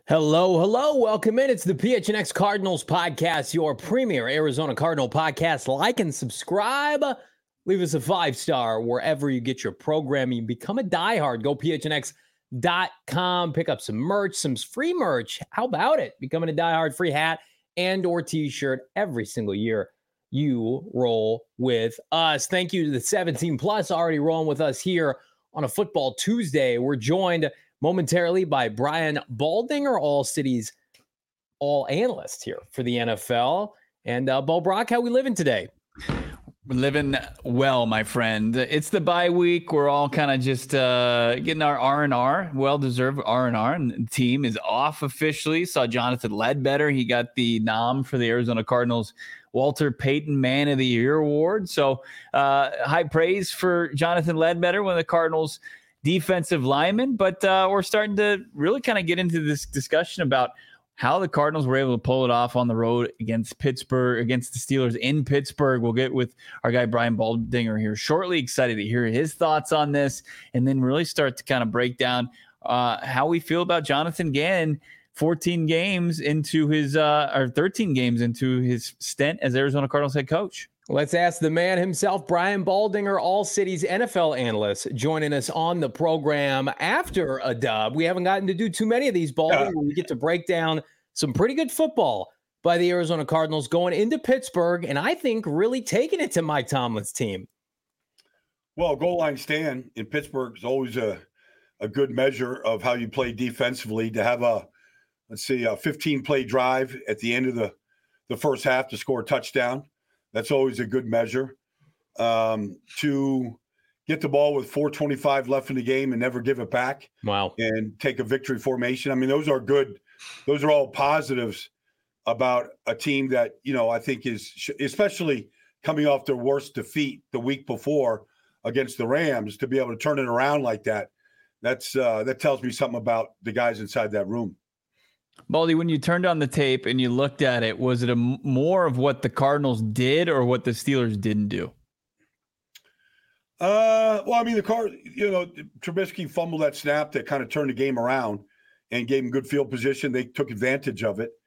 Hello, hello. Welcome in. It's the PHNX Cardinals podcast, your premier Arizona Cardinal podcast. Like and subscribe. Leave us a 5-star wherever you get your programming. Become a diehard. Go phnx.com. Pick up some merch, some free merch. How about it? Becoming a diehard, free hat and or t-shirt every single year you roll with us. Thank you to the 17 plus already rolling with us here on a Football Tuesday. We're joined momentarily by Brian Baldinger, All Cities All Analyst here for the NFL. And Bo Brock, how we living today? We're living well, my friend. It's the bye week. We're all kind of just getting our R&R, well-deserved R&R, and the team is off officially. Saw Jonathan Ledbetter. He got the nom for the Arizona Cardinals Walter Payton Man of the Year award. So high praise for Jonathan Ledbetter, one of the Cardinals defensive linemen. But we're starting to really kind of get into this discussion about how the Cardinals were able to pull it off on the road against Pittsburgh, against the Steelers in Pittsburgh. We'll get with our guy Brian Baldinger here shortly. Excited to hear his thoughts on this, and then really start to kind of break down how we feel about Jonathan Gannon 14 games into his or 13 games into his stint as Arizona Cardinals head coach. Let's ask the man himself, Brian Baldinger, All Cities NFL analyst, joining us on the program after a dub. We haven't gotten to do too many of these, Baldinger. We get to break down some pretty good football by the Arizona Cardinals going into Pittsburgh, and I think really taking it to Mike Tomlin's team. Well, goal line stand in Pittsburgh is always a good measure of how you play defensively. To have a 15-play drive at the end of the first half to score a touchdown, that's always a good measure. To get the ball with 4:25 left in the game and never give it back. Wow. And take a victory formation. I mean, those are good. Those are all positives about a team that, I think is, especially coming off their worst defeat the week before against the Rams, to be able to turn it around like that. That tells me something about the guys inside that room. Baldy, when you turned on the tape and you looked at it, was it more of what the Cardinals did or what the Steelers didn't do? Well, I mean, Trubisky fumbled that snap that kind of turned the game around and gave him good field position. They took advantage of it.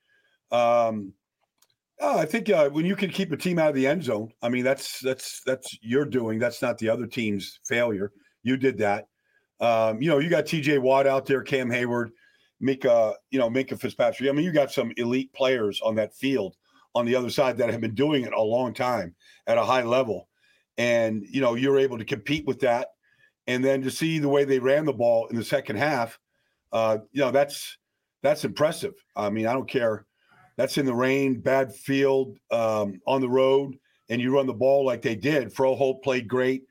I think when you can keep a team out of the end zone, I mean, that's your doing. That's not the other team's failure. You did that. You got T.J. Watt out there, Cam Hayward, Minka Fitzpatrick. I mean, you got some elite players on that field on the other side that have been doing it a long time at a high level. And, you're able to compete with that. And then to see the way they ran the ball in the second half, that's impressive. I mean, I don't care. That's in the rain, bad field, on the road, and you run the ball like they did. Froholt played great.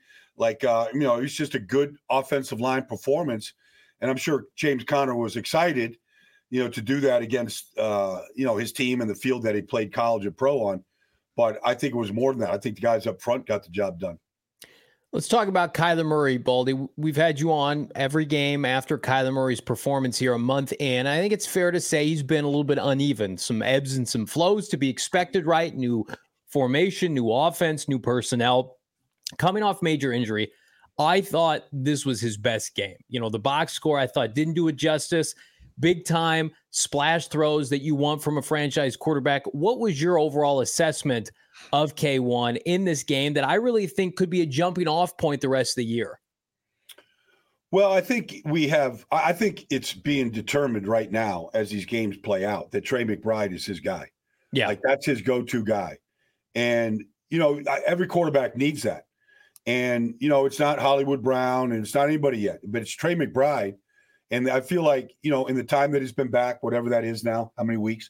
It's just a good offensive line performance. And I'm sure James Conner was excited, to do that against, his team and the field that he played college and pro on. But I think it was more than that. I think the guys up front got the job done. Let's talk about Kyler Murray, Baldy. We've had you on every game after Kyler Murray's performance here a month in. I think it's fair to say he's been a little bit uneven. Some ebbs and some flows to be expected, right? New formation, new offense, new personnel. Coming off major injury, I thought this was his best game. The box score I thought didn't do it justice. Big time splash throws that you want from a franchise quarterback. What was your overall assessment of K1 in this game that I really think could be a jumping off point the rest of the year? Well, I think it's being determined right now as these games play out that Trey McBride is his guy. Yeah. That's his go-to guy. And, every quarterback needs that. And, it's not Hollywood Brown and it's not anybody yet, but it's Trey McBride. And I feel like, in the time that he's been back, whatever that is now, how many weeks,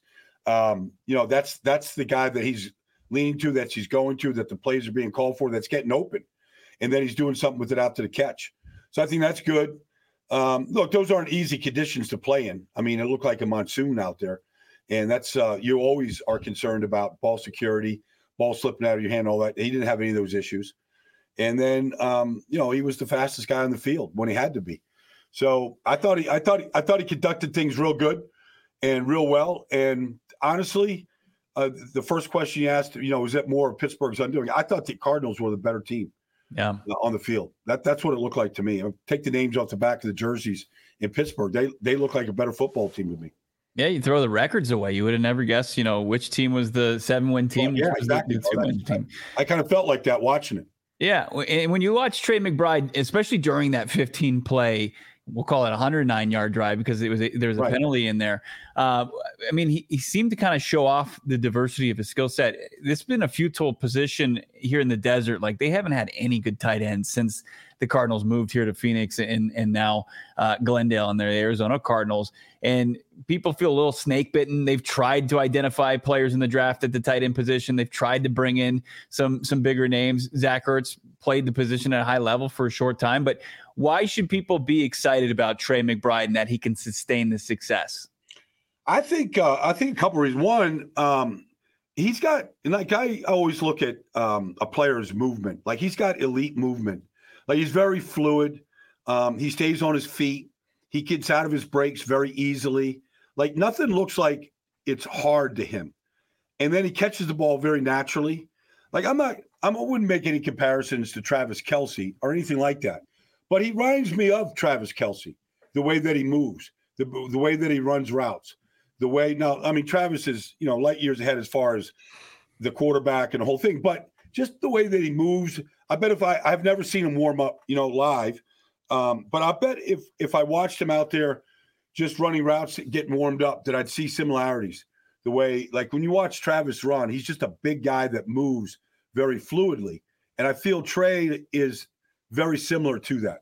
that's the guy that he's leaning to, that he's going to, that the plays are being called for, that's getting open. And then he's doing something with it out to the catch. So I think that's good. Look, those aren't easy conditions to play in. I mean, it looked like a monsoon out there. And that's you always are concerned about ball security, ball slipping out of your hand, all that. He didn't have any of those issues. And then, he was the fastest guy on the field when he had to be. So I thought he conducted things real good and real well. And honestly, the first question you asked, is that more of Pittsburgh's undoing? I thought the Cardinals were the better team. Yeah, on the field. That's what it looked like to me. Take the names off the back of the jerseys in Pittsburgh. They look like a better football team to me. Yeah, you throw the records away. You would have never guessed, which team was the 7-win team. Well, yeah, which was exactly. the 2-win team. I kind of felt like that watching it. Yeah, and when you watch Trey McBride, especially during that 15 play, we'll call it a 109-yard drive because there was a penalty in there. I mean, he seemed to kind of show off the diversity of his skill set. This has been a futile position here in the desert. Like, they haven't had any good tight ends since the Cardinals moved here to Phoenix and now Glendale and the Arizona Cardinals. And people feel a little snake bitten. They've tried to identify players in the draft at the tight end position. They've tried to bring in some bigger names. Zach Ertz played the position at a high level for a short time, but why should people be excited about Trey McBride and that he can sustain the success? I think a couple reasons. One, he's got, and like I always look at a player's movement. Like, he's got elite movement. Like, he's very fluid. He stays on his feet. He gets out of his breaks very easily. Like, nothing looks like it's hard to him. And then he catches the ball very naturally. Like, I wouldn't make any comparisons to Travis Kelce or anything like that. But he reminds me of Travis Kelce, the way that he moves, the way that he runs routes, Travis is, light years ahead as far as the quarterback and the whole thing, but just the way that he moves. I bet I've never seen him warm up, live. But I bet if I watched him out there just running routes, getting warmed up, that I'd see similarities. The way, like, when you watch Travis run, he's just a big guy that moves very fluidly. And I feel Trey is very similar to that.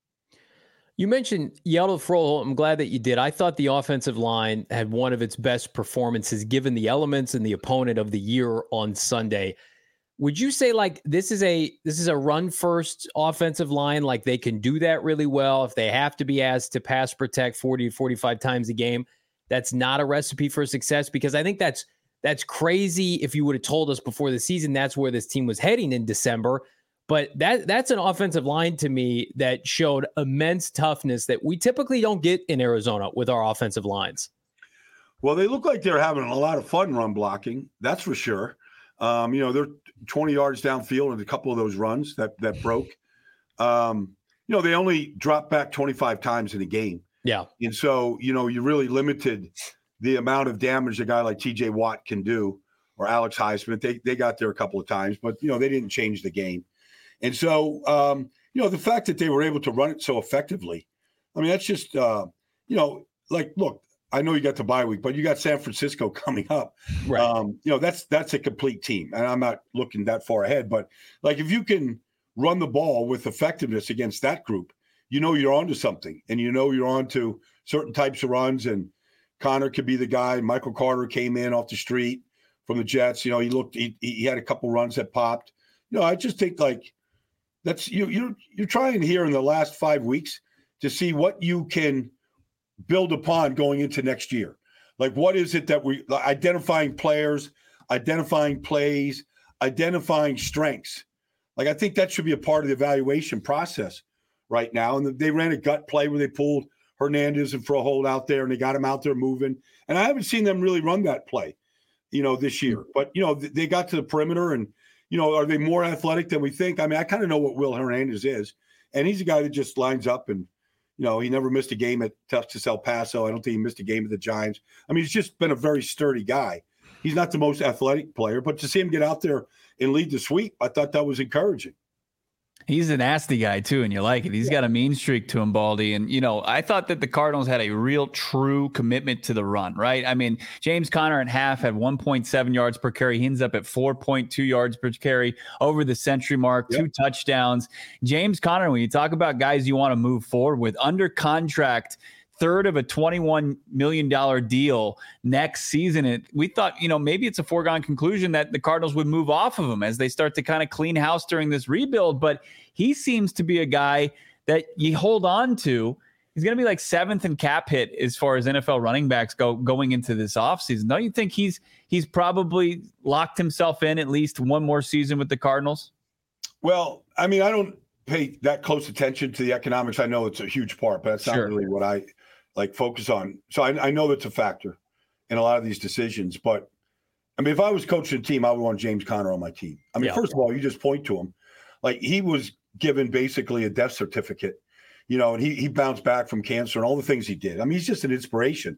You mentioned Hjalte Froholdt. I'm glad that you did. I thought the offensive line had one of its best performances given the elements and the opponent of the year on Sunday. Would you say, like, this is a run first offensive line? Like, they can do that really well if they have to be asked to pass protect 40 to 45 times a game? That's not a recipe for success, because I think that's crazy. If you would have told us before the season, that's where this team was heading in December. But that's an offensive line to me that showed immense toughness that we typically don't get in Arizona with our offensive lines. Well, they look like they're having a lot of fun run blocking. That's for sure. They're 20 yards downfield in a couple of those runs that broke. They only dropped back 25 times in a game. Yeah. And so, you really limited the amount of damage a guy like TJ Watt can do, or Alex Highsmith. They got there a couple of times, but, they didn't change the game. And so, the fact that they were able to run it so effectively, I mean, that's just, look, I know you got the bye week, but you got San Francisco coming up. Right. That's a complete team. And I'm not looking that far ahead, but like, if you can run the ball with effectiveness against that group, you're onto something, and you're onto certain types of runs. And Connor could be the guy. Michael Carter came in off the street from the Jets. He had a couple runs that popped. I just think, like, that's you're trying here in the last 5 weeks to see what you can build upon going into next year. Like, what is it that we identifying players, identifying plays, identifying strengths? Like, I think that should be a part of the evaluation process right now. And they ran a gut play where they pulled Hernandez and Froholdt out there, and they got him out there moving. And I haven't seen them really run that play, this year. But, they got to the perimeter, and, are they more athletic than we think? I mean, I kind of know what Will Hernandez is, and he's a guy that just lines up, and, he never missed a game at Texas El Paso. I don't think he missed a game at the Giants. I mean, he's just been a very sturdy guy. He's not the most athletic player, but to see him get out there and lead the sweep, I thought that was encouraging. He's a nasty guy, too, and you like it. He's got a mean streak to him, Baldy. And, I thought that the Cardinals had a real, true commitment to the run, right? I mean, James Conner at half had 1.7 yards per carry. He ends up at 4.2 yards per carry over the century mark, 2 touchdowns. James Conner, when you talk about guys you want to move forward with, under contract, third of a $21 million deal next season. We thought, maybe it's a foregone conclusion that the Cardinals would move off of him as they start to kind of clean house during this rebuild. But he seems to be a guy that you hold on to. He's going to be like 7th in cap hit as far as NFL running backs going into this offseason. Don't you think he's probably locked himself in at least one more season with the Cardinals? Well, I mean, I don't pay that close attention to the economics. I know it's a huge part, but that's not really what I focus on. So I know that's a factor in a lot of these decisions. But I mean, if I was coaching a team, I would want James Conner on my team. I mean, first of all, you just point to him. Like, he was given basically a death certificate, and he bounced back from cancer and all the things he did. I mean, he's just an inspiration.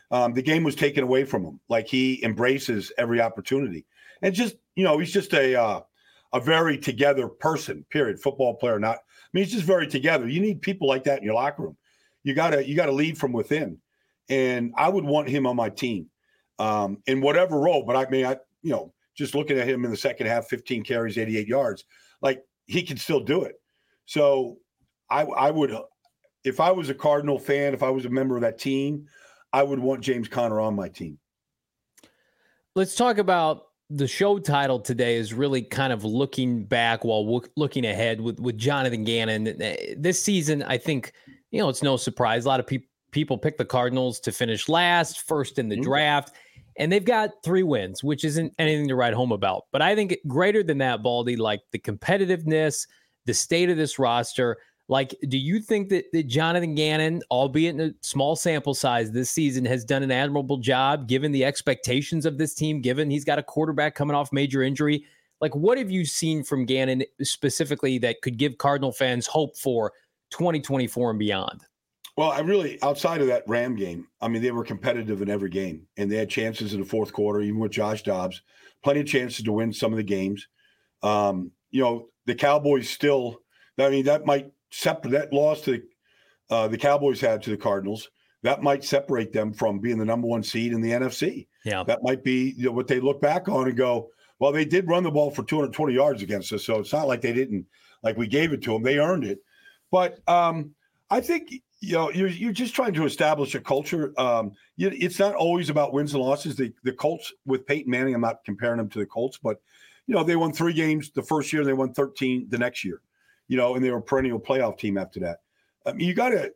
the game was taken away from him. Like, he embraces every opportunity, and just, he's just a very together person. Period. Football player, not. I mean, he's just very together. You need people like that in your locker room. You gotta lead from within, and I would want him on my team, in whatever role. But I mean, just looking at him in the second half, 15 carries, 88 yards, like, he can still do it. So I would, if I was a Cardinal fan, if I was a member of that team, I would want James Conner on my team. Let's talk about the show title today is really kind of looking back while looking ahead with Jonathan Gannon. This season, I think, it's no surprise. A lot of people pick the Cardinals to finish last, first in the draft, and they've got 3 wins, which isn't anything to write home about. But I think greater than that, Baldy, like the competitiveness, the state of this roster, like, do you think that Jonathan Gannon, albeit in a small sample size this season, has done an admirable job given the expectations of this team, given he's got a quarterback coming off major injury? Like, what have you seen from Gannon specifically that could give Cardinal fans hope for 2024 and beyond? Well, outside of that Ram game, I mean, they were competitive in every game, and they had chances in the fourth quarter, even with Josh Dobbs, plenty of chances to win some of the games. The Cowboys still, I mean, that loss to the Cowboys had to the Cardinals, that might separate them from being the number 1 seed in the NFC. Yeah. That might be what they look back on and go, well, they did run the ball for 220 yards against us. So it's not like they didn't, like, we gave it to them. They earned it. But I think, you're just trying to establish a culture. It's not always about wins and losses. The Colts with Peyton Manning, I'm not comparing them to the Colts, but, they won 3 games the first year, they won 13 the next year. And they were a perennial playoff team after that. I mean, you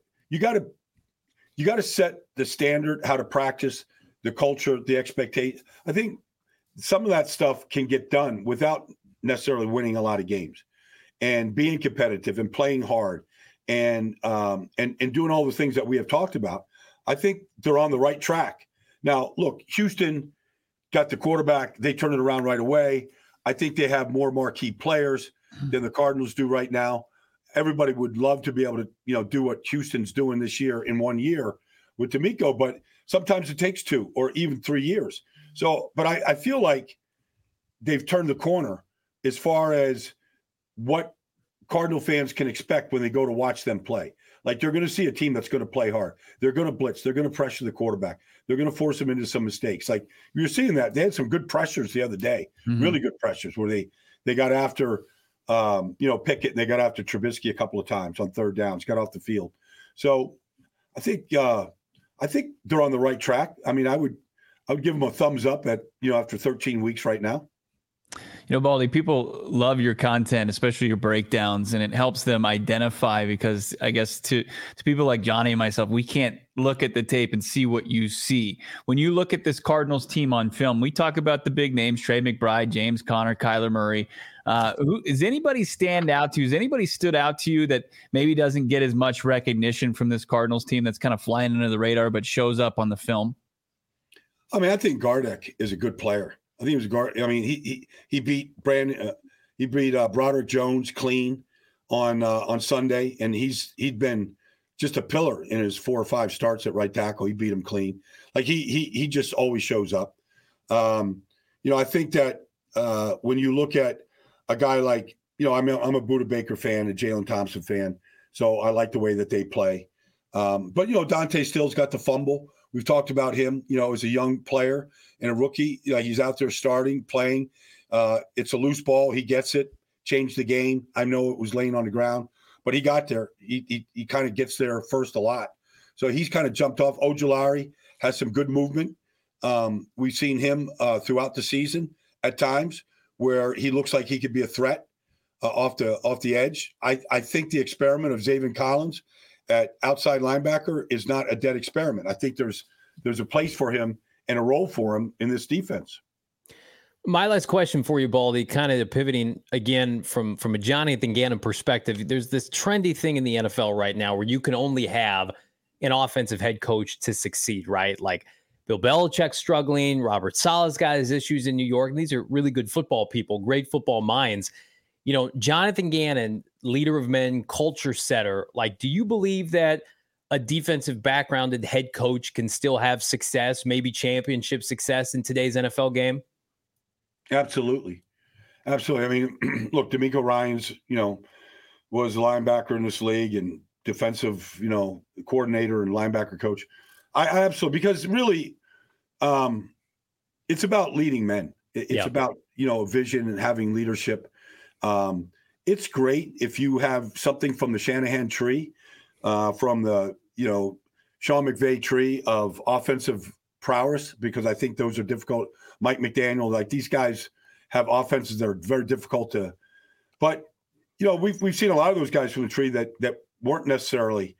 gotta set the standard, how to practice, the culture, the expectation. I think some of that stuff can get done without necessarily winning a lot of games, and being competitive and playing hard and doing all the things that we have talked about. I think they're on the right track. Now, look, Houston got the quarterback. They turned it around right away. I think they have more marquee players than the Cardinals do right now. Everybody would love to be able to, do what Houston's doing this year in 1 year with DeMeco, but sometimes it takes 2 or even 3 years. So, but I feel like they've turned the corner as far as what Cardinal fans can expect when they go to watch them play. Like, they're going to see a team that's going to play hard. They're going to blitz. They're going to pressure the quarterback. They're going to force him into some mistakes. Like, you're seeing that. They had some good pressures the other day, really good pressures where they got after Pickett, and they got after Trubisky a couple of times on third downs, got off the field. So I think they're on the right track. I mean, I would give them a thumbs up at, after 13 weeks right now. Baldy, people love your content, especially your breakdowns, and it helps them identify, because I guess to people like Johnny and myself, we can't look at the tape and see what you see. When you look at this Cardinals team on film, we talk about the big names, Trey McBride, James Conner, Kyler Murray. Does anybody stand out to you? Has anybody stood out to you that maybe doesn't get as much recognition from this Cardinals team that's kind of flying under the radar but shows up on the film? I mean, I think Gardeck is a good player. I think he was guard. I mean, he beat Broderick Jones clean on Sunday, and he'd been just a pillar in his 4 or 5 starts at right tackle. He beat him clean. Like, he just always shows up. I think that when you look at a guy like, I'm a Budda Baker fan, a Jalen Thompson fan, so I like the way that they play. But Dante Still's got the fumble. We've talked about him, as a young player and a rookie. He's out there starting, playing. It's a loose ball. He gets it, changed the game. I know it was laying on the ground, but he got there. He kind of gets there first a lot. So he's kind of jumped off. Ojulari has some good movement. We've seen him throughout the season at times where he looks like he could be a threat off the edge. I think the experiment of Zaven Collins at outside linebacker is not a dead experiment. I think there's a place for him and a role for him in this defense. My last question for you, Baldy, kind of pivoting again from a Jonathan Gannon perspective. There's this trendy thing in the NFL right now where you can only have an offensive head coach to succeed, right? Like Bill Belichick's struggling. Robert Saleh's got his issues in New York. And these are really good football people, great football minds. Jonathan Gannon, leader of men, culture setter. Like, do you believe that a defensive backgrounded head coach can still have success, maybe championship success in today's NFL game? Absolutely. Absolutely. I mean, look, D'Amico Ryans, was a linebacker in this league and defensive, coordinator and linebacker coach. I absolutely, because really, it's about leading men. It's about, vision and having leadership. It's great if you have something from the Shanahan tree, from the, Sean McVay tree of offensive prowess, because I think those are difficult. Mike McDaniel, like these guys have offenses that are very difficult to, but we've seen a lot of those guys from the tree that weren't necessarily,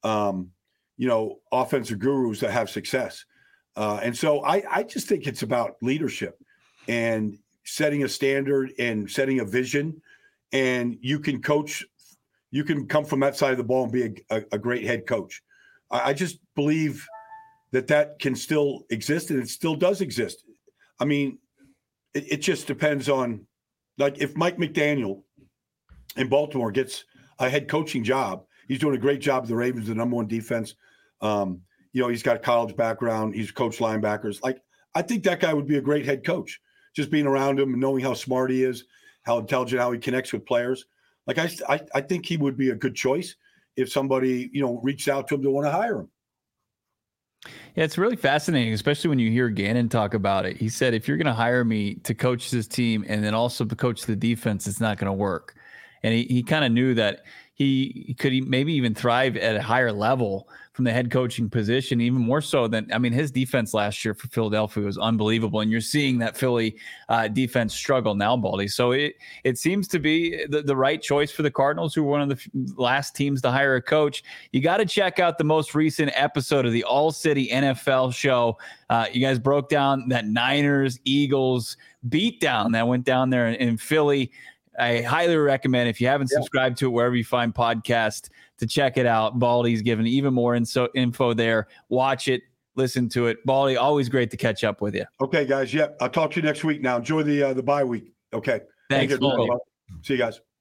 offensive gurus that have success. And so I just think it's about leadership and setting a standard and setting a vision. And you can coach, you can come from that side of the ball and be a great head coach. I just believe that can still exist, and it still does exist. I mean, it just depends on, like, if Mike McDaniel in Baltimore gets a head coaching job, he's doing a great job. The Ravens, the number one defense. He's got a college background. He's coached linebackers. Like, I think that guy would be a great head coach, just being around him and knowing how smart he is, how intelligent, how he connects with players. Like, I think he would be a good choice if somebody, reached out to him to want to hire him. Yeah, it's really fascinating, especially when you hear Gannon talk about it. He said, if you're going to hire me to coach this team and then also to coach the defense, it's not going to work. And he kind of knew that he could maybe even thrive at a higher level from the head coaching position, even more so than, his defense last year for Philadelphia was unbelievable. And you're seeing that Philly defense struggle now, Baldy. So it seems to be the right choice for the Cardinals, who were one of the last teams to hire a coach. You got to check out the most recent episode of the All City NFL show. You guys broke down that Niners-Eagles beatdown that went down there in Philly. I highly recommend, if you haven't subscribed to it wherever you find podcasts, to check it out. Baldy's giving even more info there. Watch it, listen to it. Baldy, always great to catch up with you. Okay, guys. Yep. I'll talk to you next week now. Enjoy the bye week. Okay. Thanks, Baldy. See you guys.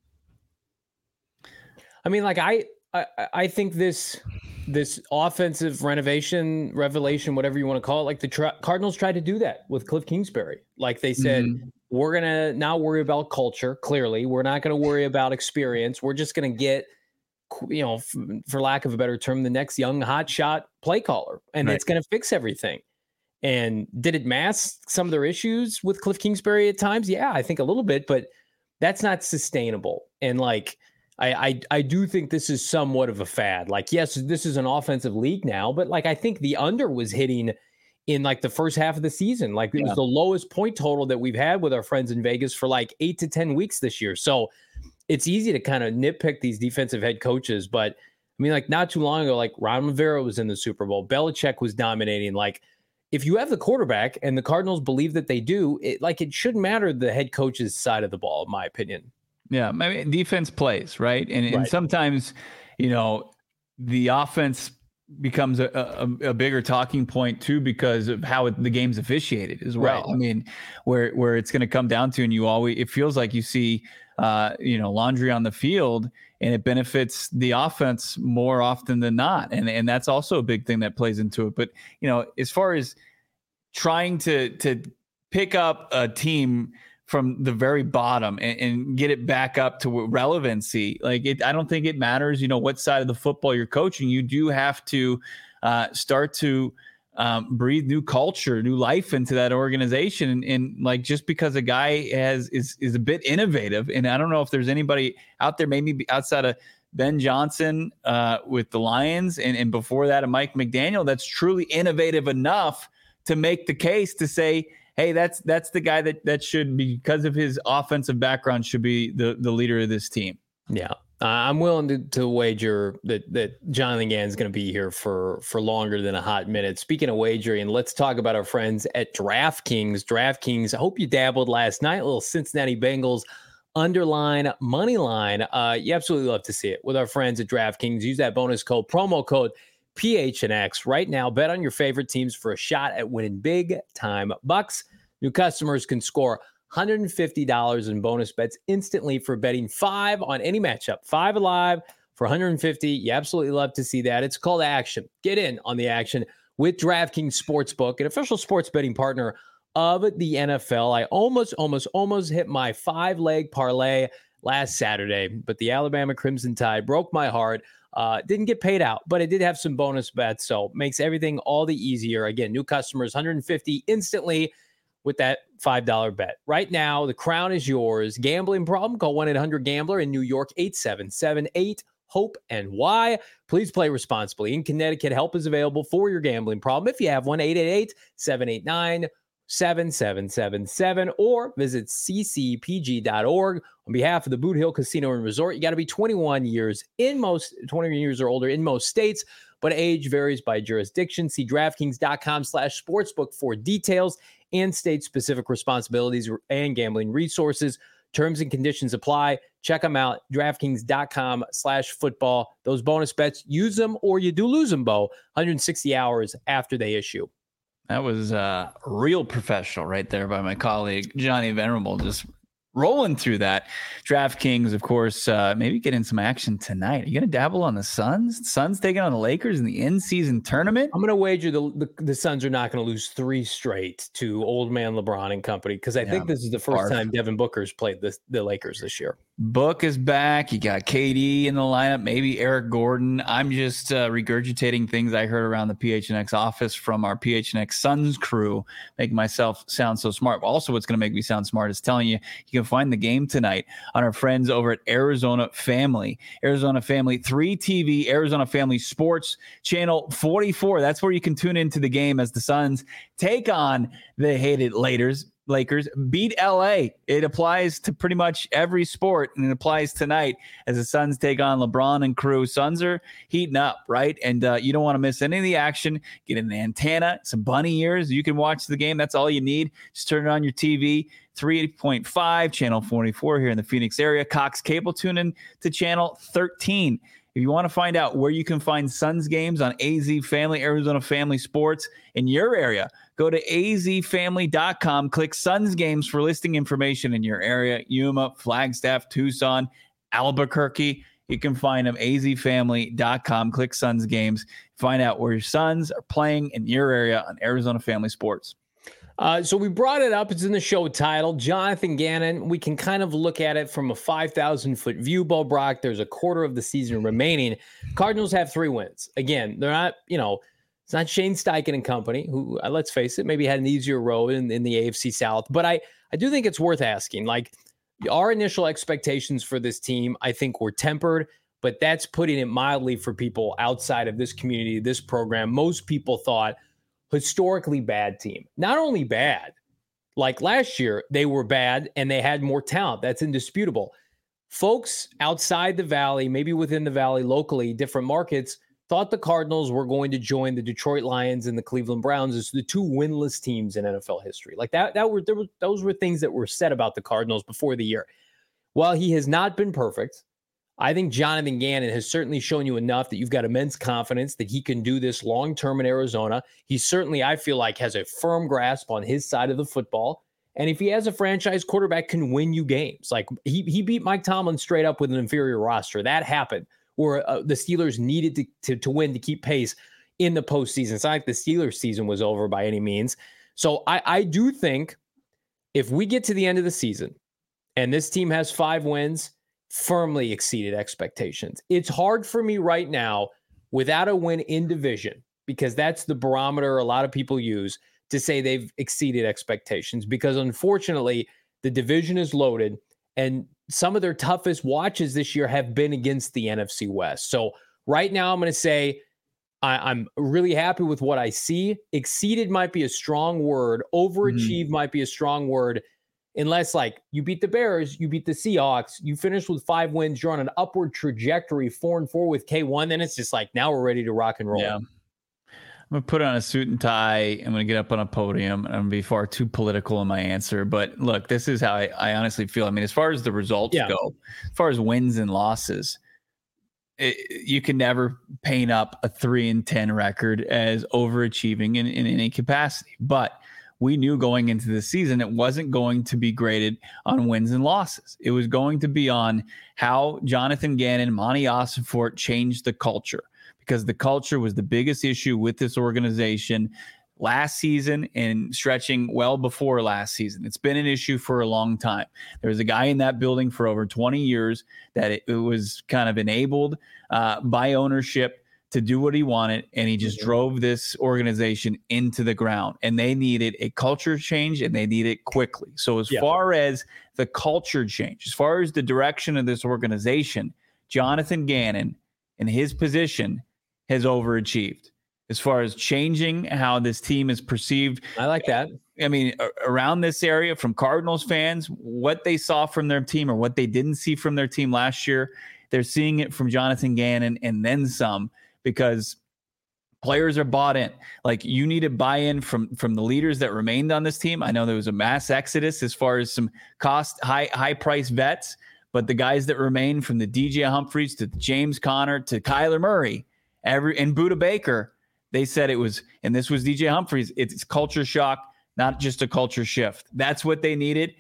I mean, like, I think this offensive revelation, whatever you want to call it, like the Cardinals tried to do that with Cliff Kingsbury. Like they said, we're going to not worry about culture. Clearly, we're not going to worry about experience. We're just going to get, for lack of a better term, the next young hotshot play caller, and it's going to fix everything. And did it mask some of their issues with Cliff Kingsbury at times? Yeah, I think a little bit, but that's not sustainable. And like, I do think this is somewhat of a fad. Like, yes, this is an offensive league now, but like, I think the under was hitting in like the first half of the season. Like it was the lowest point total that we've had with our friends in Vegas for like 8 to 10 weeks this year. So it's easy to kind of nitpick these defensive head coaches, but I mean, like not too long ago, like Ron Rivera was in the Super Bowl. Belichick was dominating. Like if you have the quarterback, and the Cardinals believe that they do, it shouldn't matter the head coach's side of the ball, in my opinion. Yeah, I mean, defense plays, right? And sometimes, the offense becomes a bigger talking point too, because of how the game's officiated as well. Right. I mean, where it's going to come down to, and it feels like you see, laundry on the field, and it benefits the offense more often than not. And that's also a big thing that plays into it. But, as far as trying to pick up a team from the very bottom and get it back up to relevancy, I don't think it matters, what side of the football you're coaching. You do have to start to breathe new culture, new life into that organization. And like, just because a guy is a bit innovative, and I don't know if there's anybody out there, maybe outside of Ben Johnson with the Lions, and before that, a Mike McDaniel, that's truly innovative enough to make the case to say, hey, that's the guy that should be, because of his offensive background, should be the leader of this team. Yeah. I'm willing to wager that Jonathan Gannon's going to be here for longer than a hot minute. Speaking of wagering, let's talk about our friends at DraftKings. DraftKings, I hope you dabbled last night. A little Cincinnati Bengals underline money line. You absolutely love to see it with our friends at DraftKings. Use that promo code PHNX right now. Bet on your favorite teams for a shot at winning big time bucks. New customers can score $150 in bonus bets instantly for betting 5 on any matchup. 5 alive, for 150. You absolutely love to see that. It's called action. Get in on the action with DraftKings Sportsbook, an official sports betting partner of the NFL. I almost hit my 5-leg parlay last Saturday, but the Alabama Crimson Tide broke my heart. Didn't get paid out, but it did have some bonus bets, so makes everything all the easier. Again, new customers, 150 instantly with that $5 bet. Right now, the crown is yours. Gambling problem? Call 1-800-GAMBLER in New York, 877-8-HOPE-NY. Please play responsibly. In Connecticut, help is available for your gambling problem. If you have one, 888-789-7777, or visit ccpg.org. On behalf of the Boot Hill Casino and Resort, you got to be 21 years or older in most states, but age varies by jurisdiction. See DraftKings.com/sportsbook for details and state-specific responsibilities and gambling resources. Terms and conditions apply. Check them out. DraftKings.com/football. Those bonus bets, use them or you do lose them, Bo, 160 hours after they issue. That was real professional right there by my colleague, Johnny Venerable, just rolling through that. DraftKings, of course, maybe getting some action tonight. Are you going to dabble on the Suns? Suns taking on the Lakers in the in-season tournament? I'm going to wager the Suns are not going to lose 3 straight to old man LeBron and company, because I think this is the first time Devin Booker's played the Lakers this year. Book is back. You got KD in the lineup, maybe Eric Gordon. I'm just regurgitating things I heard around the PHNX office from our PHNX Suns crew, making myself sound so smart. Also, what's going to make me sound smart is telling you can find the game tonight on our friends over at Arizona Family. Arizona Family 3 TV, Arizona Family Sports, channel 44. That's where you can tune into the game as the Suns take on the hated Lakers beat LA. It applies to pretty much every sport, and it applies tonight as the Suns take on LeBron and crew. Suns are heating up, right? And you don't want to miss any of the action. Get an antenna, some bunny ears. You can watch the game. That's all you need. Just turn it on your TV. 3.5, channel 44 here in the Phoenix area. Cox Cable, tune in to channel 13. If you want to find out where you can find Suns games on AZ Family, Arizona Family Sports in your area, go to azfamily.com, click Suns games for listing information in your area. Yuma, Flagstaff, Tucson, Albuquerque. You can find them, azfamily.com, click Suns games. Find out where your Suns are playing in your area on Arizona Family Sports. So we brought it up. It's in the show title. Jonathan Gannon. We can kind of look at it from a 5,000-foot view, Bo Brock. There's a quarter of the season remaining. Cardinals have 3 wins. Again, they're not, it's not Shane Steichen and company, who, let's face it, maybe had an easier road in the AFC South. But I do think it's worth asking. Like, our initial expectations for this team, I think, were tempered, but that's putting it mildly for people outside of this community, this program. Most people thought, historically bad team. Not only bad, like last year, they were bad and they had more talent. That's indisputable. Folks outside the Valley, maybe within the Valley, locally, different markets, thought the Cardinals were going to join the Detroit Lions and the Cleveland Browns as the 2 winless teams in NFL history. Like those were things that were said about the Cardinals before the year. While he has not been perfect, I think Jonathan Gannon has certainly shown you enough that you've got immense confidence that he can do this long-term in Arizona. He certainly, I feel like, has a firm grasp on his side of the football. And if he has a franchise quarterback, can win you games. Like he beat Mike Tomlin straight up with an inferior roster. That happened where the Steelers needed to win to keep pace in the postseason. It's not like the Steelers season was over by any means. So I do think if we get to the end of the season and this team has 5 wins, firmly exceeded expectations. It's hard for me right now without a win in division, because that's the barometer a lot of people use to say they've exceeded expectations, because unfortunately the division is loaded and some of their toughest watches this year have been against the NFC West. So right now I'm going to say I'm really happy with what I see. Exceeded might be a strong word. Overachieved might be a strong word. Unless, like, you beat the Bears, you beat the Seahawks, you finish with 5 wins, you're on an upward trajectory, 4-4 with K1, then it's just like, now we're ready to rock and roll. Yeah. I'm going to put on a suit and tie. I'm going to get up on a podium, and I'm going to be far too political in my answer. But look, this is how I honestly feel. I mean, as far as the results go, as far as wins and losses, you can never paint up a 3-10 record as overachieving in any capacity. But we knew going into the season it wasn't going to be graded on wins and losses. It was going to be on how Jonathan Gannon, Monty Ossenfort changed the culture, because the culture was the biggest issue with this organization last season and stretching well before last season. It's been an issue for a long time. There was a guy in that building for over 20 years that it was kind of enabled by ownership to do what he wanted, and he just drove this organization into the ground. And they needed a culture change, and they need it quickly. So as far as the culture change, as far as the direction of this organization, Jonathan Gannon in his position has overachieved as far as changing how this team is perceived. I like that. I mean, around this area, from Cardinals fans, what they saw from their team or what they didn't see from their team last year, they're seeing it from Jonathan Gannon and then some, because players are bought in. Like, you need a buy-in from the leaders that remained on this team. I know there was a mass exodus as far as some high price vets, but the guys that remain, from the DJ Humphries to James Conner to Kyler Murray, and Budda Baker, they said it was, and this was DJ Humphries, it's culture shock, not just a culture shift. That's what they needed.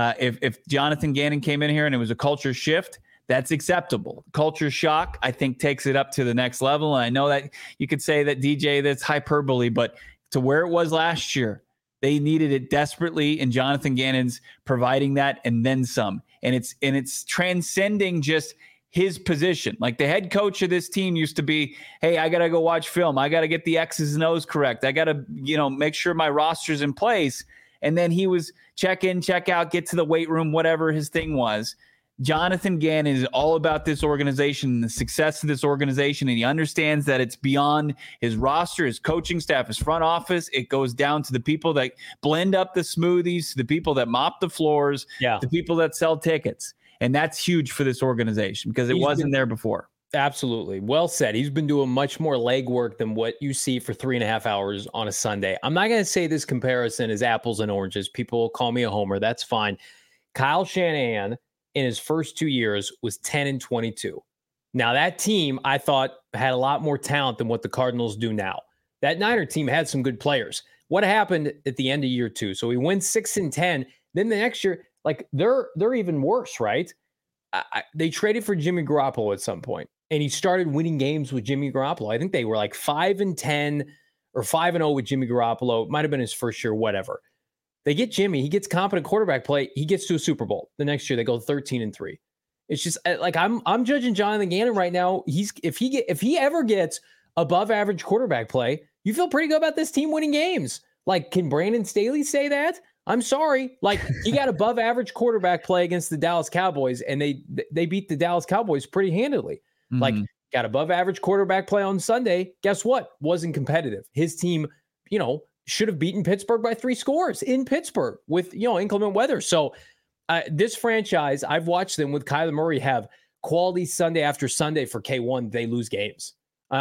If Jonathan Gannon came in here and it was a culture shift, that's acceptable. Culture shock, I think, takes it up to the next level. And I know that you could say that, DJ, that's hyperbole, but to where it was last year, they needed it desperately, and Jonathan Gannon's providing that and then some. And it's transcending just his position. Like, the head coach of this team used to be, hey, I got to go watch film. I got to get the X's and O's correct. I got to, make sure my roster's in place. And then he was check in, check out, get to the weight room, whatever his thing was. Jonathan Gannon is all about this organization and the success of this organization, and he understands that it's beyond his roster, his coaching staff, his front office. It goes down to the people that blend up the smoothies, to the people that mop the floors, the people that sell tickets. And that's huge for this organization, because it wasn't there before. Absolutely. Well said. He's been doing much more legwork than what you see for 3.5 hours on a Sunday. I'm not going to say this comparison is apples and oranges. People will call me a homer. That's fine. Kyle Shanahan, in his first 2 years, was 10-22. Now, that team, I thought, had a lot more talent than what the Cardinals do now. That Niner team had some good players. What happened at the end of year 2? So he wins 6-10. Then the next year, like, they're even worse, right? They traded for Jimmy Garoppolo at some point, and he started winning games with Jimmy Garoppolo. I think they were like 5-10 or 5-0 with Jimmy Garoppolo. It might have been his first year, whatever. They get Jimmy. He gets competent quarterback play. He gets to a Super Bowl. The next year, they go 13-3. It's just like, I'm judging Jonathan Gannon right now. If he ever gets above average quarterback play, you feel pretty good about this team winning games. Like, can Brandon Staley say that? I'm sorry. Like, he got above average quarterback play against the Dallas Cowboys, and they beat the Dallas Cowboys pretty handily. Mm-hmm. Like, got above average quarterback play on Sunday. Guess what? Wasn't competitive. His team, should have beaten Pittsburgh by 3 scores in Pittsburgh with, inclement weather. So this franchise, I've watched them with Kyler Murray have quality Sunday after Sunday for K1. They lose games.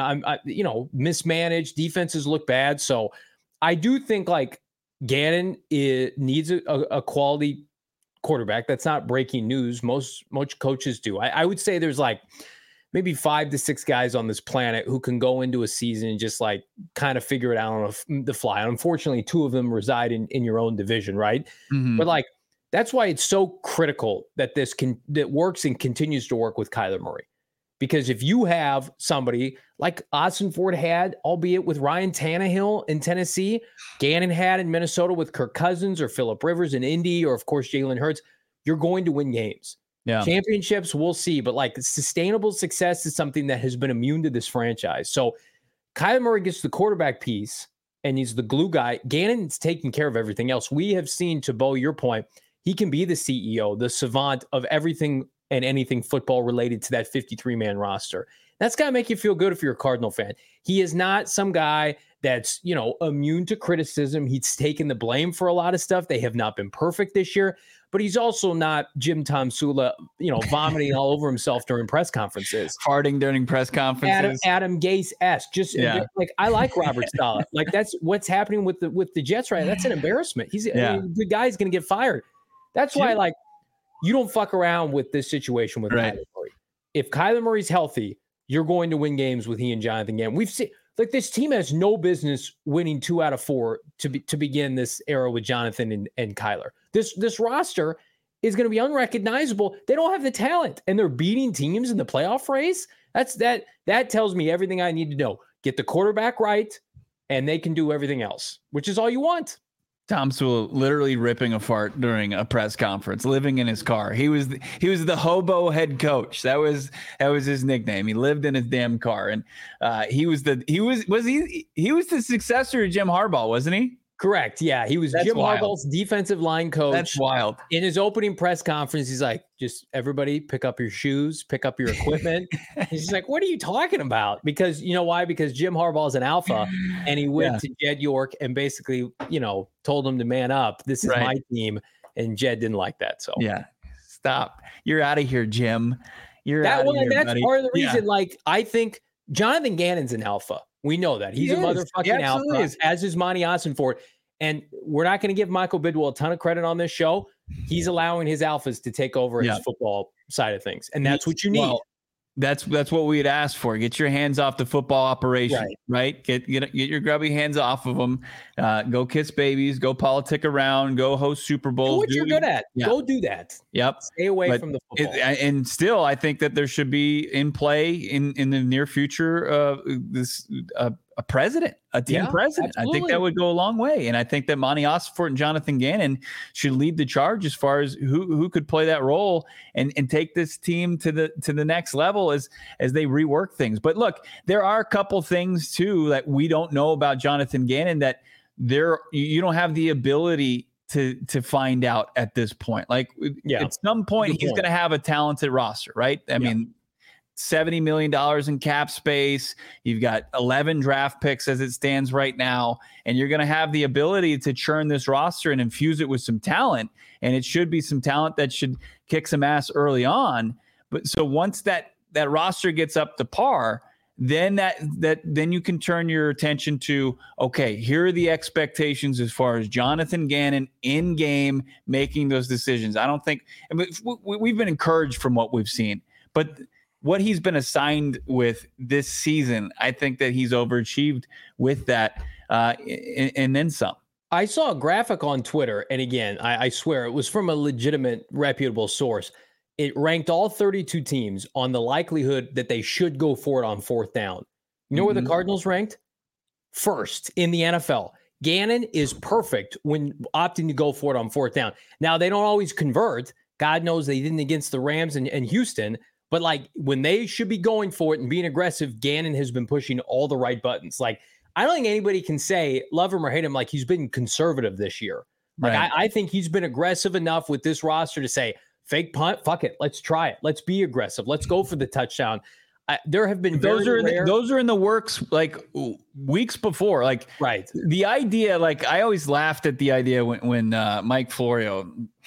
Mismanaged, defenses look bad. So I do think, like, Gannon needs a quality quarterback. That's not breaking news. Most coaches do. I would say there's like maybe 5 to 6 guys on this planet who can go into a season and just like kind of figure it out on the fly. Unfortunately, 2 of them reside in your own division, right? Mm-hmm. But like, that's why it's so critical that that works and continues to work with Kyler Murray. Because if you have somebody like Ossenfort had, albeit with Ryan Tannehill in Tennessee, Gannon had in Minnesota with Kirk Cousins or Phillip Rivers in Indy, or of course Jalen Hurts, you're going to win games. Yeah. Championships, we'll see. But like, sustainable success is something that has been immune to this franchise. So Kyler Murray gets the quarterback piece, and he's the glue guy. Gannon's taking care of everything else. We have seen, to Bo, your point, he can be the CEO, the savant of everything and anything football related to that 53-man roster. That's got to make you feel good if you're a Cardinal fan. He is not some guy that's, immune to criticism. He's taken the blame for a lot of stuff. They have not been perfect this year, but he's also not Jim Tom Sula, vomiting all over himself during press conferences. Farting during press conferences. Adam Gase-esque. Just like, I like Robert Saleh. Like, that's what's happening with the Jets right now. That's an embarrassment. The guy's going to get fired. That's why, you don't fuck around with this situation with Kyler Murray. If Kyler Murray's healthy, you're going to win games with he and Jonathan Gannon. We've seen Like, this team has no business winning 2 out of 4 to begin this era with Jonathan and Kyler. This roster is going to be unrecognizable. They don't have the talent, and they're beating teams in the playoff race. That tells me everything I need to know. Get the quarterback right, and they can do everything else, which is all you want. Tom Sewell literally ripping a fart during a press conference, living in his car. He was the hobo head coach. That was his nickname. He lived in his damn car, and he was the successor to Jim Harbaugh, wasn't he? Correct. Yeah, he was Jim Harbaugh's defensive line coach. That's wild. In his opening press conference, he's like, just everybody pick up your shoes, pick up your equipment. He's like, what are you talking about? Because you know why? Because Jim Harbaugh's an alpha, and he went to Jed York and basically, told him to man up. This is my team, and Jed didn't like that. So stop. You're out of here, Jim. That's part of the reason. Like, I think Jonathan Gannon's an alpha. We know that. He's a motherfucking alpha, as is Monty Ossenfort. And we're not going to give Michael Bidwell a ton of credit on this show. He's allowing his alphas to take over his football side of things. And that's what you need. Well, that's what we had asked for. Get your hands off the football operation, right? Get your grubby hands off of them. Go kiss babies. Go politic around. Go host Super Bowls. Do what you're good at. Go do that. Yep. Stay away from the football. And still, I think that there should be in play in the near future a president, a team president. Absolutely. I think that would go a long way. And I think that Monty Ossenfort and Jonathan Gannon should lead the charge as far as who could play that role and take this team to the next level as they rework things. But look, there are a couple things too that we don't know about Jonathan Gannon that you don't have the ability to find out at this point. Like at some point he's going to have a talented roster, right? I mean, $70 million in cap space. You've got 11 draft picks as it stands right now, and you're going to have the ability to churn this roster and infuse it with some talent. And it should be some talent that should kick some ass early on. But so once that roster gets up to par, then then you can turn your attention to, okay, here are the expectations as far as Jonathan Gannon in game making those decisions. I don't think we've been encouraged from what we've seen, but what he's been assigned with this season, I think that he's overachieved with that and then some. I saw a graphic on Twitter, and again, I swear it was from a legitimate, reputable source. It ranked all 32 teams on the likelihood that they should go for it on fourth down. You know where the Cardinals ranked? First in the NFL. Gannon is perfect when opting to go for it on fourth down. Now, they don't always convert. God knows they didn't against the Rams and Houston. But like when they should be going for it and being aggressive, Gannon has been pushing all the right buttons. Like, I don't think anybody can say, love him or hate him, like he's been conservative this year. Like, I think he's been aggressive enough with this roster to say, fake punt, fuck it, let's try it. Let's be aggressive. Let's go for the touchdown. There have been those are in the works like weeks before. Like the idea, like I always laughed at the idea when Mike Florio,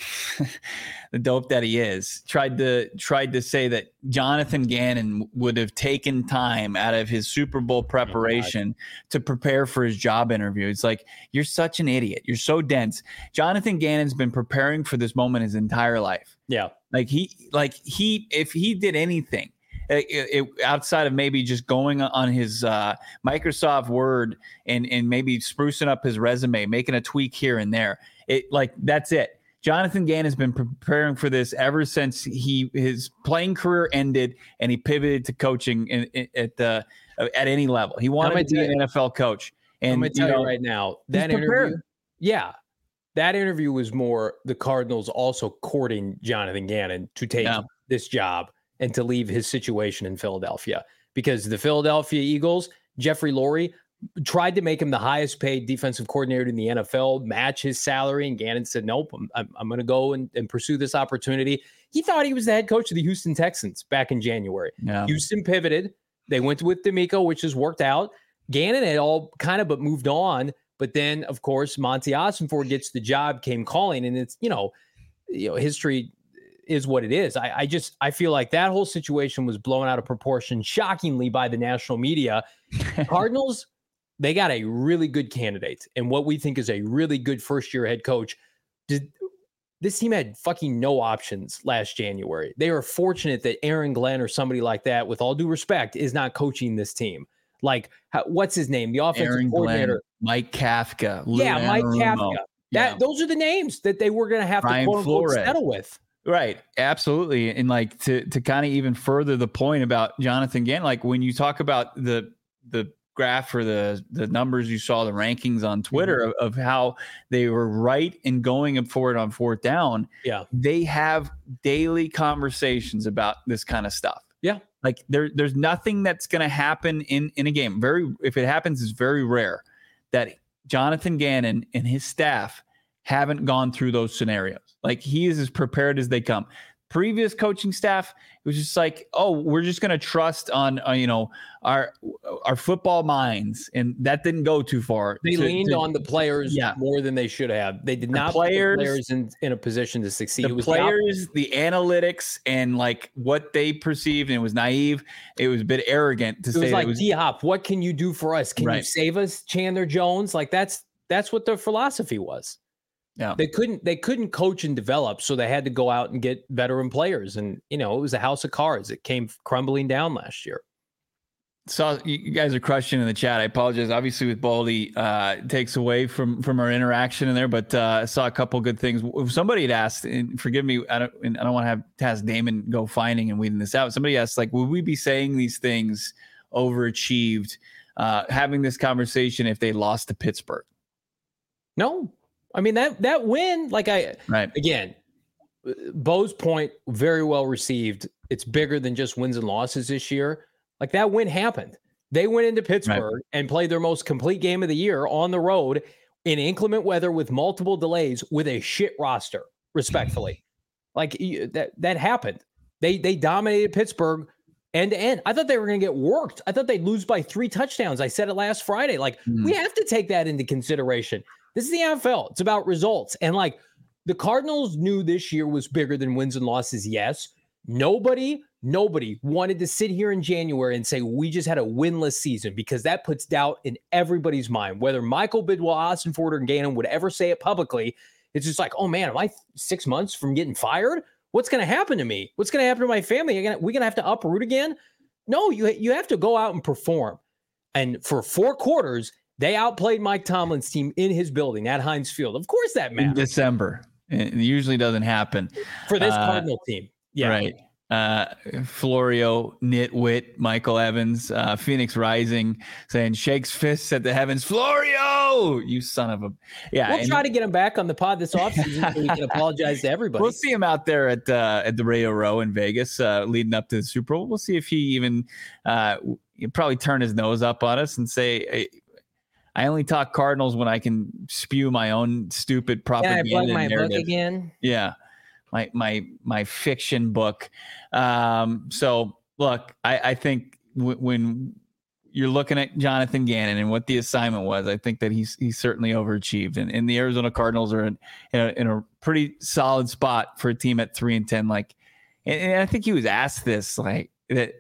the dope that he is, tried to say that Jonathan Gannon would have taken time out of his Super Bowl preparation to prepare for his job interview. It's like, you're such an idiot. You're so dense. Jonathan Gannon's been preparing for this moment his entire life. Yeah. If he did anything, outside of maybe just going on his Microsoft Word and maybe sprucing up his resume, making a tweak here and there, that's it. Jonathan Gannon has been preparing for this ever since his playing career ended and he pivoted to coaching at any level. He wanted to be an NFL coach. And I'm going to tell you right now, that interview, that interview was more the Cardinals also courting Jonathan Gannon to take this job and to leave his situation in Philadelphia, because the Philadelphia Eagles, Jeffrey Lurie, tried to make him the highest paid defensive coordinator in the NFL, match his salary. And Gannon said, nope, I'm going to go and pursue this opportunity. He thought he was the head coach of the Houston Texans back in January. Yeah. Houston pivoted. They went with DeMeco, which has worked out. Gannon had all kind of but moved on. But then, of course, Monty Ossenfort gets the job, came calling, and it's, history is what it is. I feel like that whole situation was blown out of proportion, shockingly, by the national media. Cardinals, they got a really good candidate and what we think is a really good first-year head coach. This team had fucking no options last January. They are fortunate that Aaron Glenn or somebody like that, with all due respect, is not coaching this team. Like, what's his name? The offensive Aaron coordinator. Glenn, Mike Kafka. Lou Mike Anarumo. Kafka. Those are the names that they were going to have Brian to quote unquote Flores. settle with. Right. Absolutely. And like to kind of even further the point about Jonathan Gannon, like when you talk about the graph or the numbers you saw, the rankings on Twitter of how they were right in going forward on fourth down. Yeah. They have daily conversations about this kind of stuff. Yeah. Like there's nothing that's going to happen in a game. If it happens, it's very rare that Jonathan Gannon and his staff haven't gone through those scenarios. Like he is as prepared as they come. Previous coaching staff, it was just like, oh, we're just going to trust on our football minds, and that didn't go too far. They leaned on the players more than they should have. They did not put the players in a position to succeed. The players, the analytics, and like what they perceived, and it was naive. It was a bit arrogant to say. It was D-Hop. What can you do for us? Can you save us, Chandler Jones? Like that's what their philosophy was. Yeah, they couldn't coach and develop, so they had to go out and get veteran players, and it was a house of cards. It came crumbling down last year. So you guys are crushing in the chat. I apologize. Obviously, with Baldy, takes away from our interaction in there, but I saw a couple good things. Somebody had asked, and forgive me, I don't want to have Damon go finding and weeding this out. Somebody asked, like, would we be saying these things overachieved, having this conversation if they lost to Pittsburgh? No. I mean, that win, again, Bo's point, very well received. It's bigger than just wins and losses this year. Like that win happened. They went into Pittsburgh and played their most complete game of the year on the road in inclement weather with multiple delays with a shit roster, respectfully. Like that happened. They dominated Pittsburgh end to end. I thought they were going to get worked. I thought they'd lose by 3 touchdowns. I said it last Friday. Like we have to take that into consideration. This is the NFL. It's about results. And like the Cardinals knew this year was bigger than wins and losses. Yes. Nobody wanted to sit here in January and say, we just had a winless season, because that puts doubt in everybody's mind. Whether Michael Bidwell, Ossenfort, or Gannon would ever say it publicly, it's just like, oh man, am I 6 months from getting fired? What's going to happen to me? What's going to happen to my family? We're going to have to uproot again? No, you have to go out and perform. And for 4 quarters, they outplayed Mike Tomlin's team in his building at Heinz Field. Of course that matters. In December. It usually doesn't happen. For this Cardinal team. Yeah. Right. Florio, Nitwit, Michael Evans, Phoenix Rising saying shakes fists at the heavens. Florio, you son of a... Yeah. We'll try to get him back on the pod this offseason so we can apologize to everybody. We'll see him out there at the Radio Row in Vegas leading up to the Super Bowl. We'll see if he even he'll probably turn his nose up on us and say... Hey, I only talk Cardinals when I can spew my own stupid propaganda. Yeah, I plug my book again. Yeah, my fiction book. So look, I think when you're looking at Jonathan Gannon and what the assignment was, I think that he's certainly overachieved, and the Arizona Cardinals are in a pretty solid spot for a team at 3-10. Like, and I think he was asked this, like that.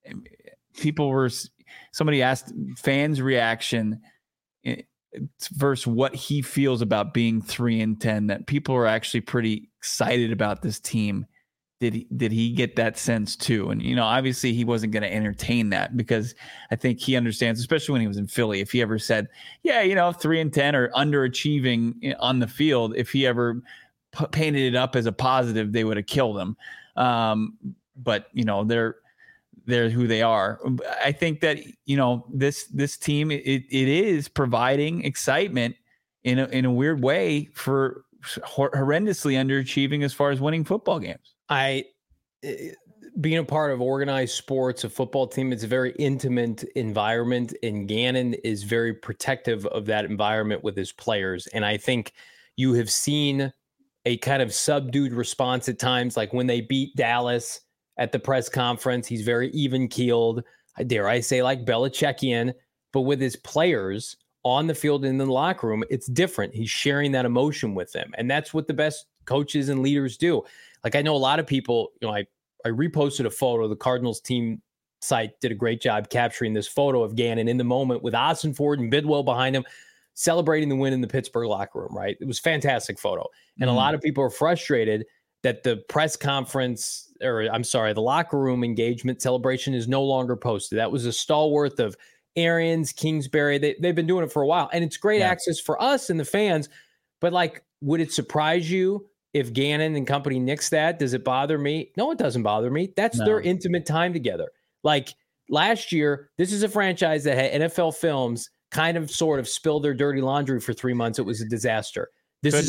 Somebody asked fans' reaction versus what he feels about being 3-10, that people are actually pretty excited about this team. Did he get that sense too? And, obviously he wasn't going to entertain that, because I think he understands, especially when he was in Philly, if he ever said, 3-10 or underachieving on the field, if he ever painted it up as a positive, they would have killed him. But they're who they are. I think that, this team, it is providing excitement in a weird way for horrendously underachieving as far as winning football games. Being a part of organized sports, a football team, it's a very intimate environment, and Gannon is very protective of that environment with his players. And I think you have seen a kind of subdued response at times, like when they beat Dallas at the press conference. He's very even-keeled, dare I say, like Belichickian, but with his players on the field and in the locker room, it's different. He's sharing that emotion with them, and that's what the best coaches and leaders do. Like, I know a lot of people, I reposted a photo. The Cardinals team site did a great job capturing this photo of Gannon in the moment with Ossenfort and Bidwell behind him, celebrating the win in the Pittsburgh locker room, right? It was a fantastic photo. And a lot of people are frustrated that the press conference, the locker room engagement celebration is no longer posted. That was a stalwart of Arians, Kingsbury. They've been doing it for a while, and it's great access for us and the fans. But like, would it surprise you if Gannon and company nix that? Does it bother me? No, it doesn't bother me. That's their intimate time together. Like last year, this is a franchise that had NFL Films kind of sort of spill their dirty laundry for 3 months. It was a disaster. This is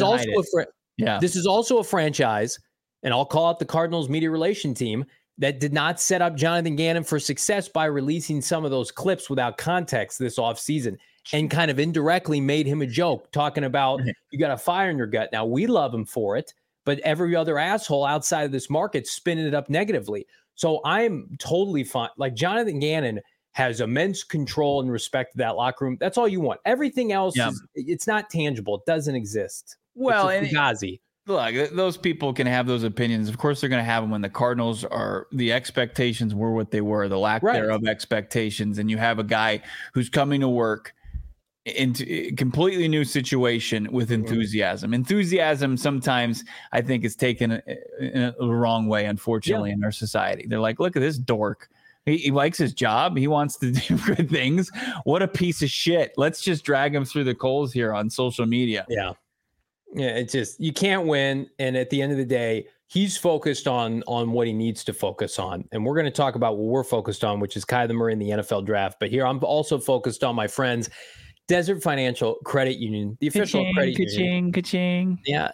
also a franchise, and I'll call out the Cardinals media relation team, that did not set up Jonathan Gannon for success by releasing some of those clips without context this offseason and kind of indirectly made him a joke, talking about you got a fire in your gut. Now, we love him for it, but every other asshole outside of this market spinning it up negatively. So I'm totally fine. Like, Jonathan Gannon has immense control and respect to that locker room. That's all you want. Everything else, it's not tangible. It doesn't exist. Well, it's Fugazi. Look, those people can have those opinions. Of course, they're going to have them when the Cardinals are, the expectations were what they were, the lack thereof expectations. And you have a guy who's coming to work into a completely new situation with enthusiasm. Enthusiasm sometimes, I think, is taken in the wrong way, unfortunately, in our society. They're like, look at this dork. He likes his job. He wants to do good things. What a piece of shit. Let's just drag him through the coals here on social media. Yeah, it's just, you can't win. And at the end of the day, he's focused on what he needs to focus on. And we're going to talk about what we're focused on, which is Kyler Murray in the NFL draft. But here I'm also focused on my friends, Desert Financial Credit Union, the official credit union. Ka-ching. Yeah,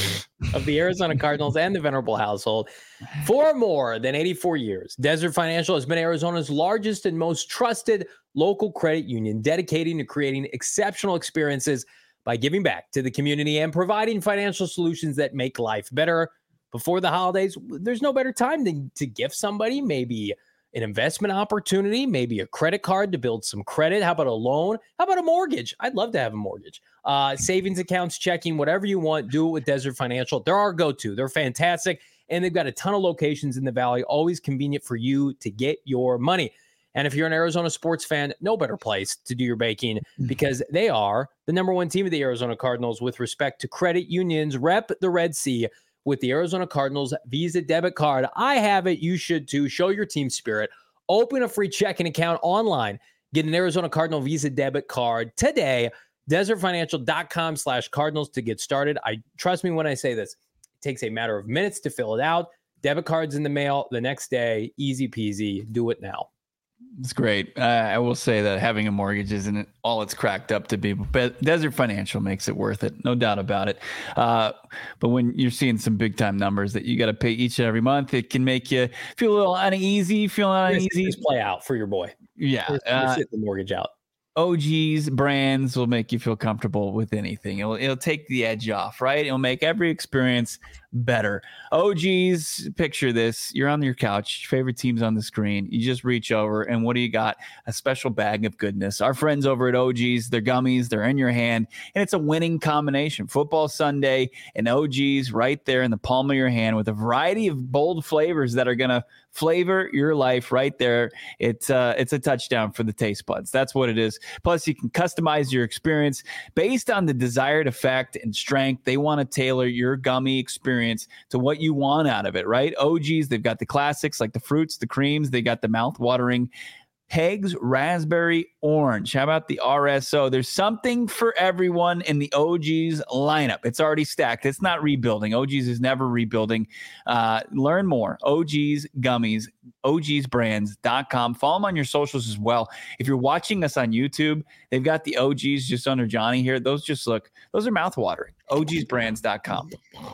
of the Arizona Cardinals and the Venerable household. For more than 84 years, Desert Financial has been Arizona's largest and most trusted local credit union, dedicating to creating exceptional experiences by giving back to the community and providing financial solutions that make life better. Before the holidays, there's no better time to gift somebody maybe an investment opportunity, maybe a credit card to build some credit. How about a loan? How about a mortgage? I'd love to have a mortgage. Savings accounts, checking, whatever you want, do it with Desert Financial. They're our go-to. They're fantastic, and they've got a ton of locations in the Valley, always convenient for you to get your money. And if you're an Arizona sports fan, no better place to do your banking, because they are the number one team of the Arizona Cardinals with respect to credit unions. Rep the Red Sea with the Arizona Cardinals Visa debit card. I have it. You should too. Show your team spirit. Open a free checking account online. Get an Arizona Cardinal Visa debit card today. DesertFinancial.com/Cardinals to get started. Trust me when I say this. It takes a matter of minutes to fill it out. Debit cards in the mail the next day. Easy peasy. Do it now. It's great. I will say that having a mortgage isn't all it's cracked up to be, but Desert Financial makes it worth it. No doubt about it. But when you're seeing some big time numbers that you got to pay each and every month, it can make you feel a little uneasy, Just play out for your boy. Yeah. Just hit the mortgage out. OG's brands will make you feel comfortable with anything. It'll take the edge off, right? It'll make every experience better. OG's, picture this. You're on your couch, your favorite team's on the screen. You just reach over, and what do you got? A special bag of goodness. Our friends over at OG's, they're gummies, they're in your hand, and it's a winning combination. Football Sunday and OG's right there in the palm of your hand with a variety of bold flavors that are going to flavor your life right there. It's a touchdown for the taste buds. That's what it is. Plus, you can customize your experience based on the desired effect and strength. They want to tailor your gummy experience to what you want out of it, right? OG's, they've got the classics like the fruits, the creams. They got the mouth-watering Pegs Raspberry Orange. How about the RSO? There's something for everyone in the OG's lineup. It's already stacked. It's not rebuilding. OG's is never rebuilding. Learn more. OG's Gummies, ogsbrands.com. Follow them on your socials as well. If you're watching us on YouTube, they've got the OG's just under Johnny here. Those are mouthwatering. ogsbrands.com.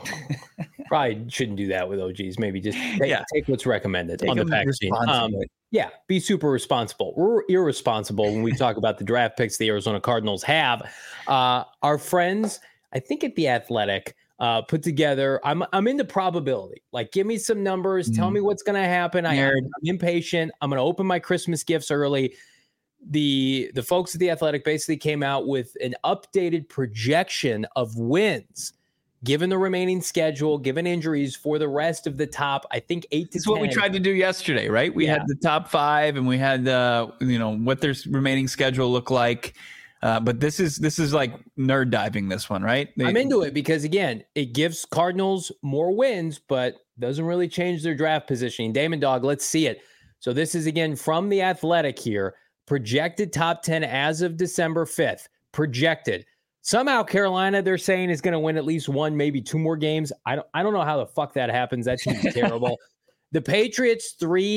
Probably shouldn't do that with OG's. Maybe just take what's recommended on the packaging. Yeah, be super responsible. We're irresponsible when we talk about the draft picks the Arizona Cardinals have. Our friends, I think at The Athletic, put together, I'm into probability. Like, give me some numbers. Tell me what's going to happen. I'm impatient. I'm going to open my Christmas gifts early. The folks at The Athletic basically came out with an updated projection of wins given the remaining schedule, given injuries for the rest of the top, I think 8 to 10. This is what we tried to do yesterday, right? We had the top 5 and we had, what their remaining schedule look like. But this is like nerd diving this one, right? I'm into it because, again, it gives Cardinals more wins, but doesn't really change their draft positioning. Damon Dog, let's see it. So this is, again, from The Athletic here. projected top 10 as of December 5th. Projected. Somehow Carolina, they're saying, is going to win at least one, maybe two more games. I don't know how the fuck that happens. That team's terrible. The Patriots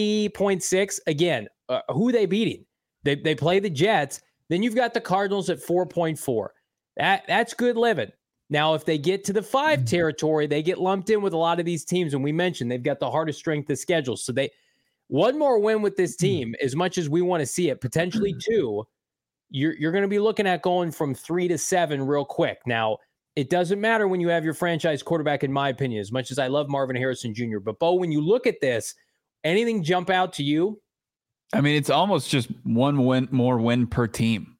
3.6. Again, who are they beating? They play the Jets. Then you've got the Cardinals at 4.4. That's good living. Now, if they get to the 5 territory, they get lumped in with a lot of these teams. And we mentioned they've got the hardest strength of schedule. So one more win with this team, as much as we want to see it, potentially 2. You're going to be looking at going from 3 to 7 real quick. Now, it doesn't matter when you have your franchise quarterback, in my opinion, as much as I love Marvin Harrison Jr. But, Bo, when you look at this, anything jump out to you? I mean, it's almost just one more win per team.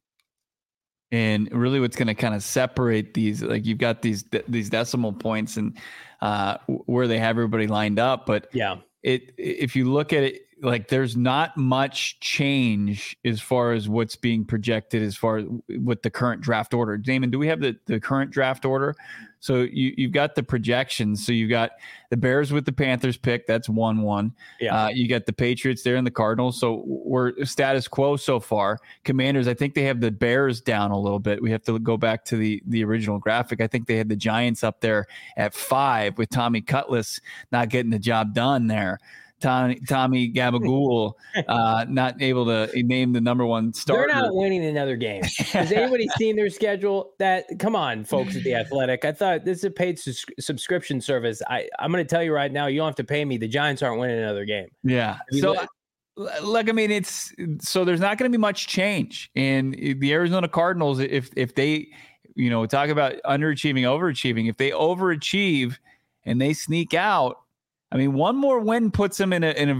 And really what's going to kind of separate these, like you've got these decimal points and where they have everybody lined up. But yeah, if you look at it, like there's not much change as far as what's being projected as far as with the current draft order. Damon, do we have the current draft order? So you've got the projections. So you've got the Bears with the Panthers pick. That's 1-1. Yeah. You got the Patriots there and the Cardinals. So we're status quo so far. Commanders, I think they have the Bears down a little bit. We have to go back to the original graphic. I think they had the Giants up there at 5 with Tommy Cutlass not getting the job done there. Tommy Gabagool not able to name the number 1 starter. They're not winning another game. Has anybody seen their schedule? Come on, folks at The Athletic. I thought this is a paid subscription service. I'm going to tell you right now, you don't have to pay me. The Giants aren't winning another game. Yeah. So, look, I mean, there's not going to be much change. And the Arizona Cardinals, if they, talk about underachieving, overachieving, if they overachieve and they sneak out, I mean, one more win puts them in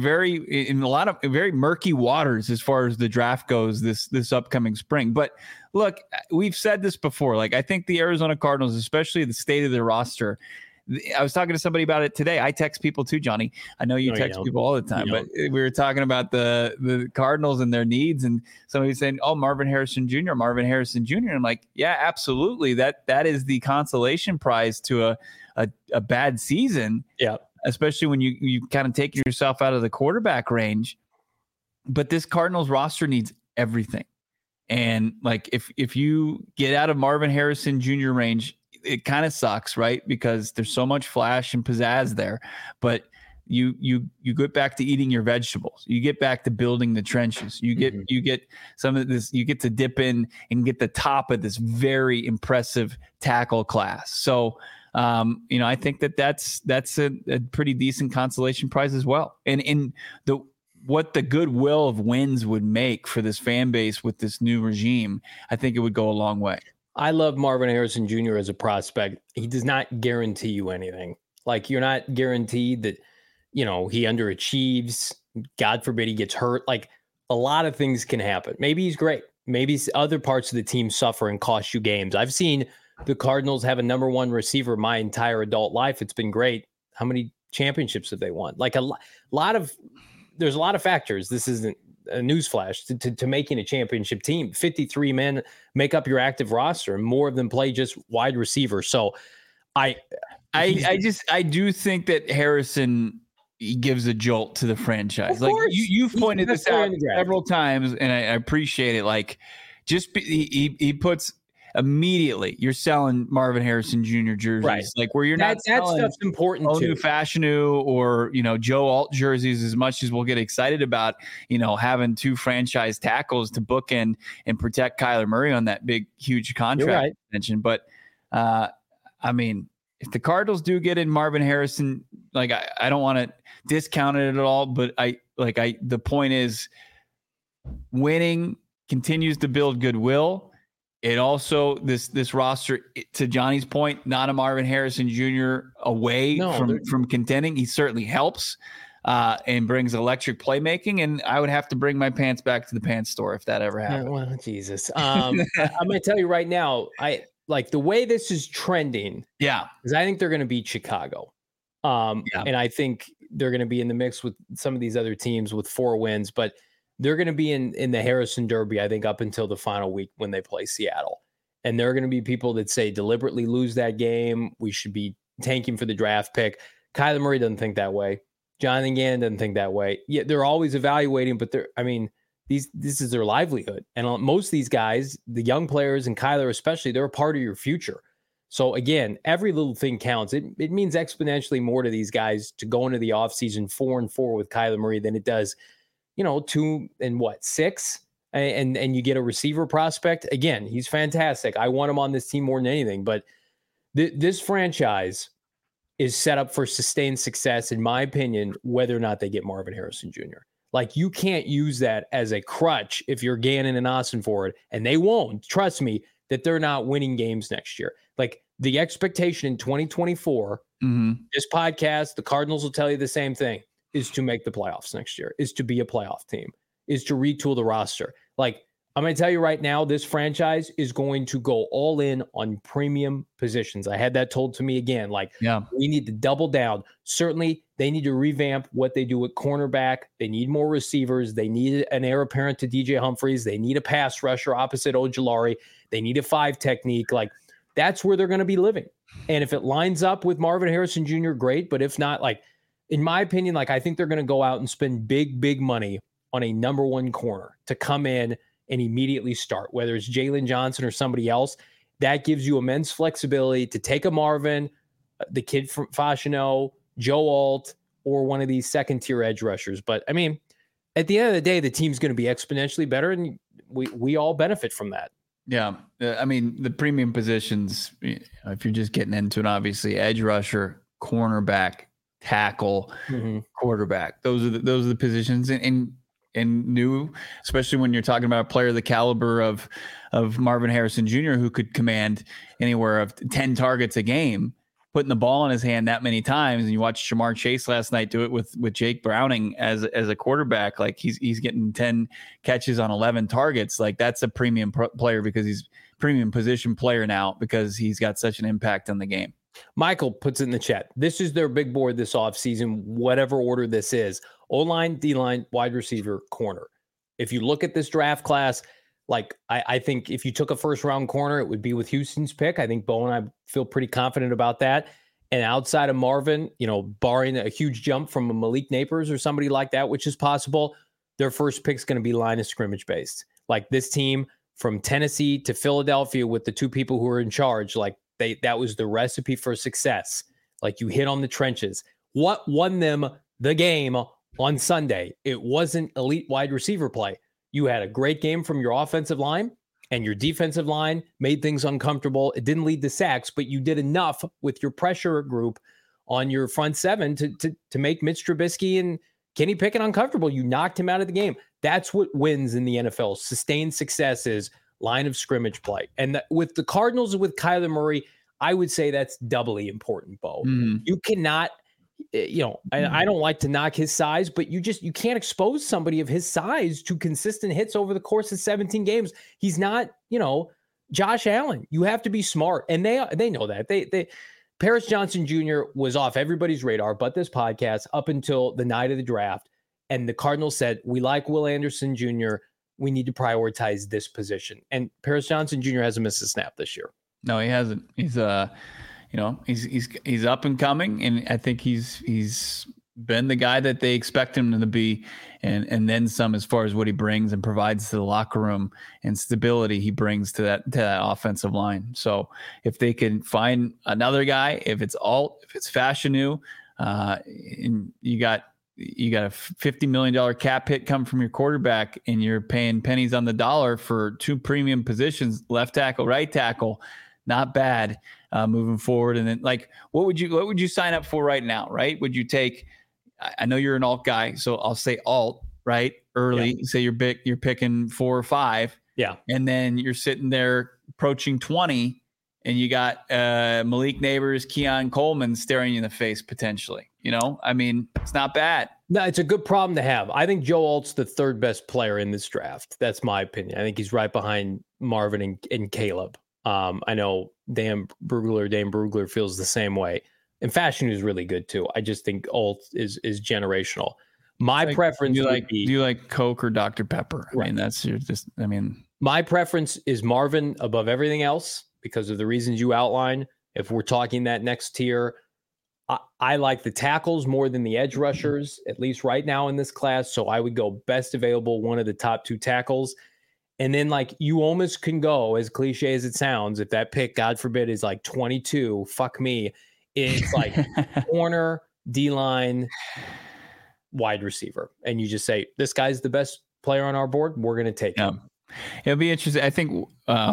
a lot of very murky waters as far as the draft goes this upcoming spring. But look, we've said this before. Like, I think the Arizona Cardinals, especially the state of their roster, I was talking to somebody about it today. I text people too, Johnny. I know you text people all the time, but we were talking about the Cardinals and their needs, and somebody was saying, "Oh, Marvin Harrison Jr." And I'm like, yeah, absolutely. That is the consolation prize to a bad season. Yeah. Especially when you kind of take yourself out of the quarterback range. But this Cardinals roster needs everything. And like if you get out of Marvin Harrison Jr. range, it kind of sucks, right? Because there's so much flash and pizzazz there. But you get back to eating your vegetables. You get back to building the trenches. You get some of this, you get to dip in and get the top of this very impressive tackle class. So I think that's a pretty decent consolation prize as well. And in what the goodwill of wins would make for this fan base with this new regime, I think it would go a long way. I love Marvin Harrison Jr. as a prospect. He does not guarantee you anything. Like, you're not guaranteed that, he underachieves. God forbid he gets hurt. Like, a lot of things can happen. Maybe he's great. Maybe other parts of the team suffer and cost you games. I've seen the Cardinals have a number 1 receiver my entire adult life. It's been great. How many championships have they won? Like there's a lot of factors. This isn't a newsflash to making a championship team. 53 men make up your active roster, and more of them play just wide receiver. So I do think that Harrison gives a jolt to the franchise. Like you've pointed this out several times, and I appreciate it. Like he puts immediately you're selling Marvin Harrison Jr. jerseys, right? Like where you're not selling that stuff's important too. Fashanu or Joe Alt jerseys as much as we'll get excited about having 2 franchise tackles to bookend and protect Kyler Murray on that big huge contract extension. But I mean, if the Cardinals do get in Marvin Harrison, like I don't want to discount it at all, but the point is winning continues to build goodwill. It also, this roster, to Johnny's point, not a Marvin Harrison Jr. away from contending. He certainly helps and brings electric playmaking. And I would have to bring my pants back to the pants store if that ever happened. Well, Jesus. I'm going to tell you right now, I like the way this is trending. Yeah. Because I think they're going to beat Chicago. And I think they're going to be in the mix with some of these other teams with 4 wins. But they're going to be in the Harrison Derby, I think, up until the final week when they play Seattle. And there are going to be people that say deliberately lose that game. We should be tanking for the draft pick. Kyler Murray doesn't think that way. Jonathan Gannon doesn't think that way. Yeah, they're always evaluating, but this is their livelihood. And most of these guys, the young players and Kyler especially, they're a part of your future. So again, every little thing counts. It means exponentially more to these guys to go into the offseason 4-4 with Kyler Murray than it does, 2-6, and you get a receiver prospect. Again, he's fantastic. I want him on this team more than anything. But this franchise is set up for sustained success, in my opinion, whether or not they get Marvin Harrison Jr. Like, you can't use that as a crutch if you're Gannon and Ossenford, and they won't. Trust me that they're not winning games next year. Like, the expectation in 2024, this podcast, the Cardinals will tell you the same thing, is to make the playoffs next year, is to be a playoff team, is to retool the roster. Like, I'm going to tell you right now, this franchise is going to go all in on premium positions. I had that told to me again. Like, we need to double down. Certainly, they need to revamp what they do at cornerback. They need more receivers. They need an heir apparent to DJ Humphries. They need a pass rusher opposite Ojulari. They need a 5 technique. Like, that's where they're going to be living. And if it lines up with Marvin Harrison Jr., great. But if not, like, in my opinion, like, I think they're going to go out and spend big money on a number 1 corner to come in and immediately start, whether it's Jalen Johnson or somebody else. That gives you immense flexibility to take a Marvin, the kid from Fashanu, Joe Alt, or one of these second-tier edge rushers. But, I mean, at the end of the day, the team's going to be exponentially better, and we all benefit from that. Yeah. I mean, the premium positions, if you're just getting into it, obviously, edge rusher, cornerback, tackle, quarterback. Those are the positions. And new, especially when you're talking about a player the caliber of Marvin Harrison Jr., who could command anywhere of 10 targets a game, putting the ball in his hand that many times. And you watched Jamar Chase last night do it with Jake Browning as a quarterback. Like, he's getting 10 catches on 11 targets. Like, that's a premium player because he's premium position player now because he's got such an impact on the game. Michael puts it in the chat. This is their big board this offseason, whatever order this is. O-line, D-line, wide receiver, corner. If you look at this draft class, like, I think if you took a first-round corner, it would be with Houston's pick. I think Bo and I feel pretty confident about that. And outside of Marvin, barring a huge jump from a Malik Neighbors or somebody like that, which is possible, their first pick's going to be line of scrimmage based. Like, this team from Tennessee to Philadelphia with the 2 people who are in charge, like, that was the recipe for success. Like, you hit on the trenches. What won them the game on Sunday? It wasn't elite wide receiver play. You had a great game from your offensive line, and your defensive line made things uncomfortable. It didn't lead to sacks, but you did enough with your pressure group on your front 7 to make Mitch Trubisky and Kenny Pickett uncomfortable. You knocked him out of the game. That's what wins in the NFL. Sustained success is line of scrimmage play. And with the Cardinals, with Kyler Murray, I would say that's doubly important, Bo. You cannot, I don't like to knock his size, but you can't expose somebody of his size to consistent hits over the course of 17 games. He's not, Josh Allen. You have to be smart. And they know that. Paris Johnson Jr. was off everybody's radar, but this podcast up until the night of the draft. And the Cardinals said, we like Will Anderson Jr. We need to prioritize this position. And Paris Johnson Jr. hasn't missed a snap this year. No, he hasn't. He's he's up and coming, and I think he's been the guy that they expect him to be, and then some as far as what he brings and provides to the locker room and stability he brings to that offensive line. So if they can find another guy, if it's Fashanu, and you got a $50 million cap hit come from your quarterback, and you're paying pennies on the dollar for 2 premium positions, left tackle, right tackle. Not bad moving forward. And then, like, what would you sign up for right now? Right? Would you take? I know you're an alt guy, so I'll say alt right early. Yeah. Say you're picking 4 or 5. Yeah, and then you're sitting there approaching 20, and you got Malik Neighbors, Keon Coleman staring you in the face potentially. I mean, it's not bad. No, it's a good problem to have. I think Joe Alt's the 3rd best player in this draft. That's my opinion. I think he's right behind Marvin and Caleb. I know Dane Brugler feels the same way. And Fashanu is really good too. I just think Alt is generational. My preference would be, do you like Coke or Dr. Pepper? Right. I mean, my preference is Marvin above everything else because of the reasons you outlined. If we're talking that next tier, I like the tackles more than the edge rushers, at least right now in this class. So I would go best available, one of the top 2 tackles. And then, like, you almost can go, as cliche as it sounds, if that pick, God forbid, is like 22, fuck me. It's like corner, D-line, wide receiver. And you just say, this guy's the best player on our board. We're going to take him. It'll be interesting. I think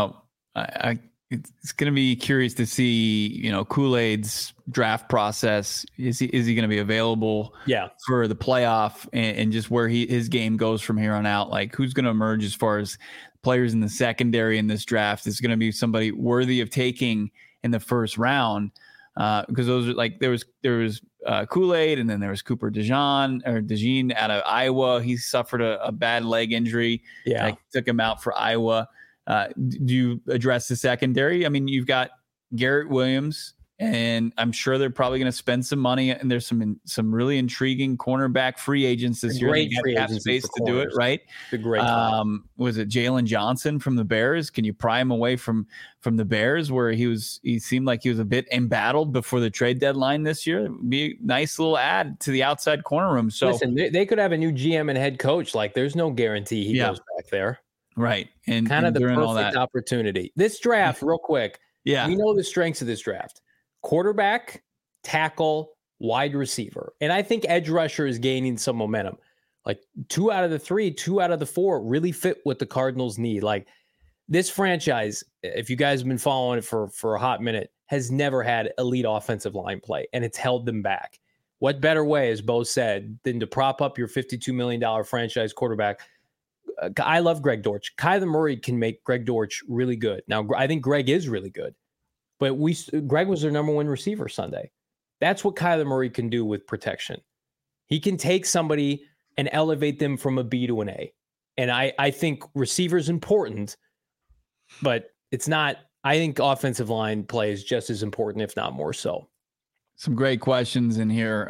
it's going to be curious to see, Kool-Aid's draft process. Is he going to be available for the playoff and just where his game goes from here on out? Like, who's going to emerge as far as players in the secondary in this draft? Is going to be somebody worthy of taking in the first round? Because those are like, there was Kool-Aid, and then there was Cooper DeJean out of Iowa. He suffered a bad leg injury. Yeah. That took him out for Iowa. Do you address the secondary? I mean, you've got Garrett Williams, and I'm sure they're probably going to spend some money. And there's some really intriguing cornerback free agents this year. Great free agents space to do it, right? The great. Was it Jalen Johnson from the Bears? Can you pry him away from the Bears, where he seemed like he was a bit embattled before the trade deadline this year? It'd be a nice little add to the outside corner room. So listen, they could have a new GM and head coach. Like, there's no guarantee he goes back there. Right. And kind of the perfect opportunity. This draft, real quick. Yeah. We know the strengths of this draft: quarterback, tackle, wide receiver. And I think edge rusher is gaining some momentum. Like 2 out of the 3, 2 out of the 4 really fit what the Cardinals need. Like, this franchise, if you guys have been following it for a hot minute, has never had elite offensive line play, and it's held them back. What better way, as Bo said, than to prop up your $52 million franchise quarterback? I love Greg Dortch. Kyler Murray can make Greg Dortch really good. Now, I think Greg is really good, but Greg was their number 1 receiver Sunday. That's what Kyler Murray can do with protection. He can take somebody and elevate them from a B to an A. And I think receiver is important, but it's not. I think offensive line play is just as important, if not more so. Some great questions in here.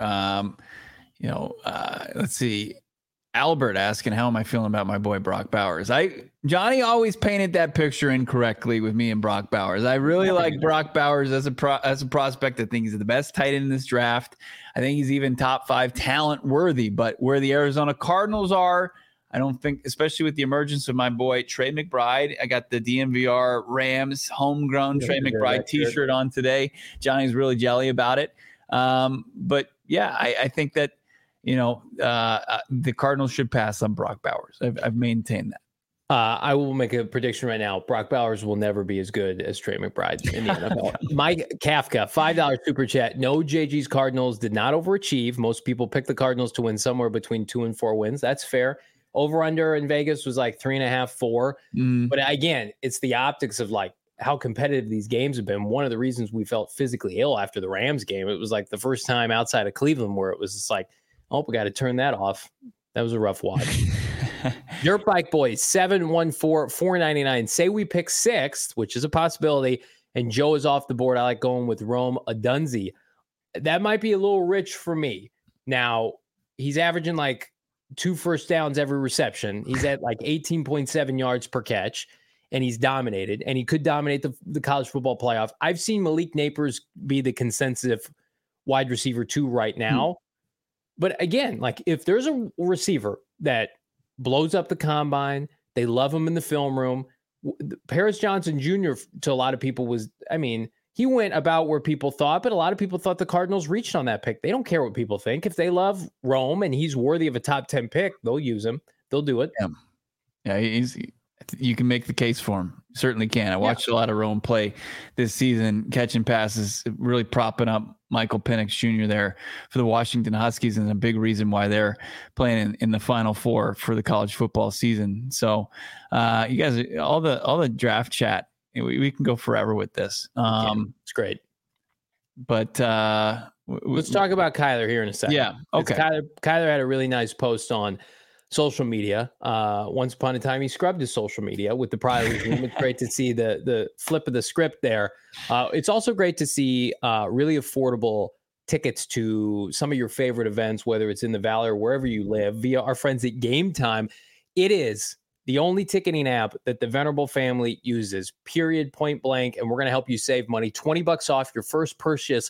Let's see. Albert asking, how am I feeling about my boy Brock Bowers? Johnny always painted that picture incorrectly with me and Brock Bowers. I really like Brock Bowers as a prospect. I think he's the best tight end in this draft. I think he's even top 5 talent worthy. But where the Arizona Cardinals are, I don't think, especially with the emergence of my boy Trey McBride. I got the DNVR Rams homegrown Trey McBride T-shirt on today. Johnny's really jelly about it. But yeah, I think that the Cardinals should pass on Brock Bowers. I've maintained that. I will make a prediction right now. Brock Bowers will never be as good as Trey McBride in the NFL. Mike Kafka, $5 super chat. No, JG's Cardinals did not overachieve. Most people pick the Cardinals to win somewhere between 2 and 4 wins. That's fair. Over under in Vegas was like 3.5, 4. But again, it's the optics of like how competitive these games have been. One of the reasons we felt physically ill after the Rams game, it was like the first time outside of Cleveland where it was just like, oh, we got to turn that off. That was a rough watch. Dirt Bike Boys, 714-499. Say we pick 6th, which is a possibility, and Joe is off the board. I like going with Rome Odunze. That might be a little rich for me. Now, he's averaging like 2 first downs every reception. He's at like 18.7 yards per catch, and he's dominated, and he could dominate the college football playoff. I've seen Malik Neighbors be the consensus wide receiver 2 right now. But again, like if there's a receiver that blows up the combine, they love him in the film room. Paris Johnson Jr. to a lot of people was, he went about where people thought, but a lot of people thought the Cardinals reached on that pick. They don't care what people think. If they love Rome and he's worthy of a top 10 pick, they'll use him. They'll do it. Yeah, you can make the case for him. Certainly can. I watched a lot of Rome play this season, catching passes, really propping up Michael Penix Jr. there for the Washington Huskies, and a big reason why they're playing in the Final Four for the college football season. So you guys, all the draft chat, we can go forever with this. It's great. But let's talk about Kyler here in a second. Yeah. Okay. Kyler had a really nice post on social media. Once upon a time, he scrubbed his social media with the prior regime. It's great to see the flip of the script there. It's also great to see really affordable tickets to some of your favorite events, whether it's in the Valley or wherever you live, via our friends at Game Time. It is the only ticketing app that the Venerable family uses, period, point blank, and we're going to help you save money. $20 off your first purchase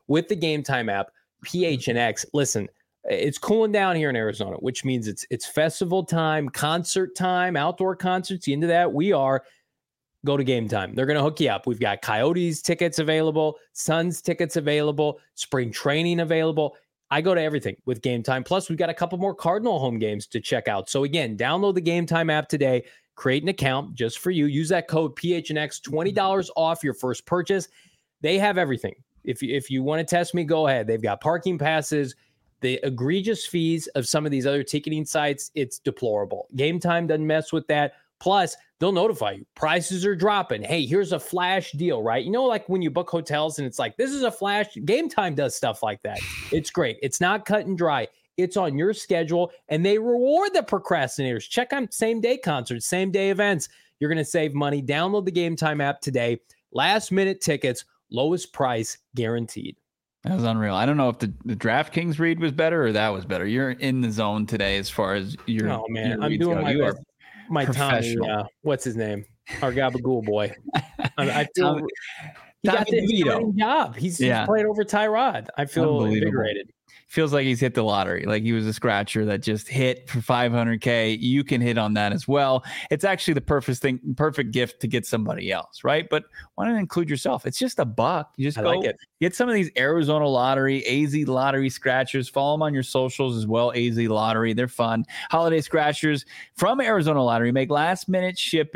with the Game Time app, PHNX. Listen, it's cooling down here in Arizona, which means it's festival time, concert time, outdoor concerts. You into that? We are. Go to Game Time. They're going to hook you up. We've got Coyotes tickets available, Suns tickets available, spring training available. I go to everything with Game Time. Plus, we've got a couple more Cardinal home games to check out. So again, download the Game Time app today. Create an account just for you. Use that code PHNX, $20 off your first purchase. They have everything. If you want to test me, go ahead. They've got parking passes. The egregious fees of some of these other ticketing sites, it's deplorable. Game Time doesn't mess with that. Plus, they'll notify you. Prices are dropping. Hey, here's a flash deal, right? You know, like when you book hotels and it's like, this is a flash. Game Time does stuff like that. It's great. It's not cut and dry. It's on your schedule, and they reward the procrastinators. Check out same-day concerts, same-day events. You're going to save money. Download the Game Time app today. Last-minute tickets, lowest price guaranteed. That was unreal. I don't know if the DraftKings read was better or that was better. You're in the zone today as far as your. Oh man, your I'm reads doing go. my Tommy. What's his name? Our Gabagool boy. I feel he got the exciting job. He's playing over Tyrod. I feel invigorated. Feels like he's hit the lottery. Like he was a scratcher that just hit for $500K. You can hit on that as well. It's actually the perfect gift to get somebody else, right? But why not include yourself? It's just $1. You just go get some of these Arizona Lottery, AZ Lottery scratchers. Follow them on your socials as well. AZ Lottery, they're fun. Holiday scratchers from Arizona Lottery make last-minute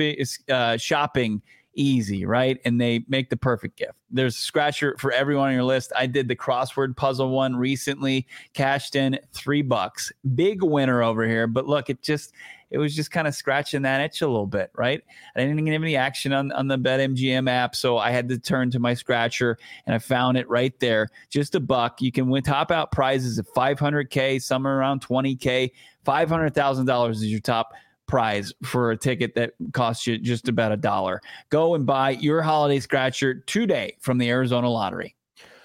shopping easy, right? And they make the perfect gift. There's a scratcher for everyone on your list. I did the crossword puzzle one recently, cashed in $3. Big winner over here. But look, it was just kind of scratching that itch a little bit, right? I didn't get any action on the BetMGM app, so I had to turn to my scratcher, and I found it right there. Just $1. You can win top out prizes of $500K, somewhere around $20K. $500,000 is your top prize for a ticket that costs you just about $1. Go and buy your holiday scratcher today from the Arizona Lottery.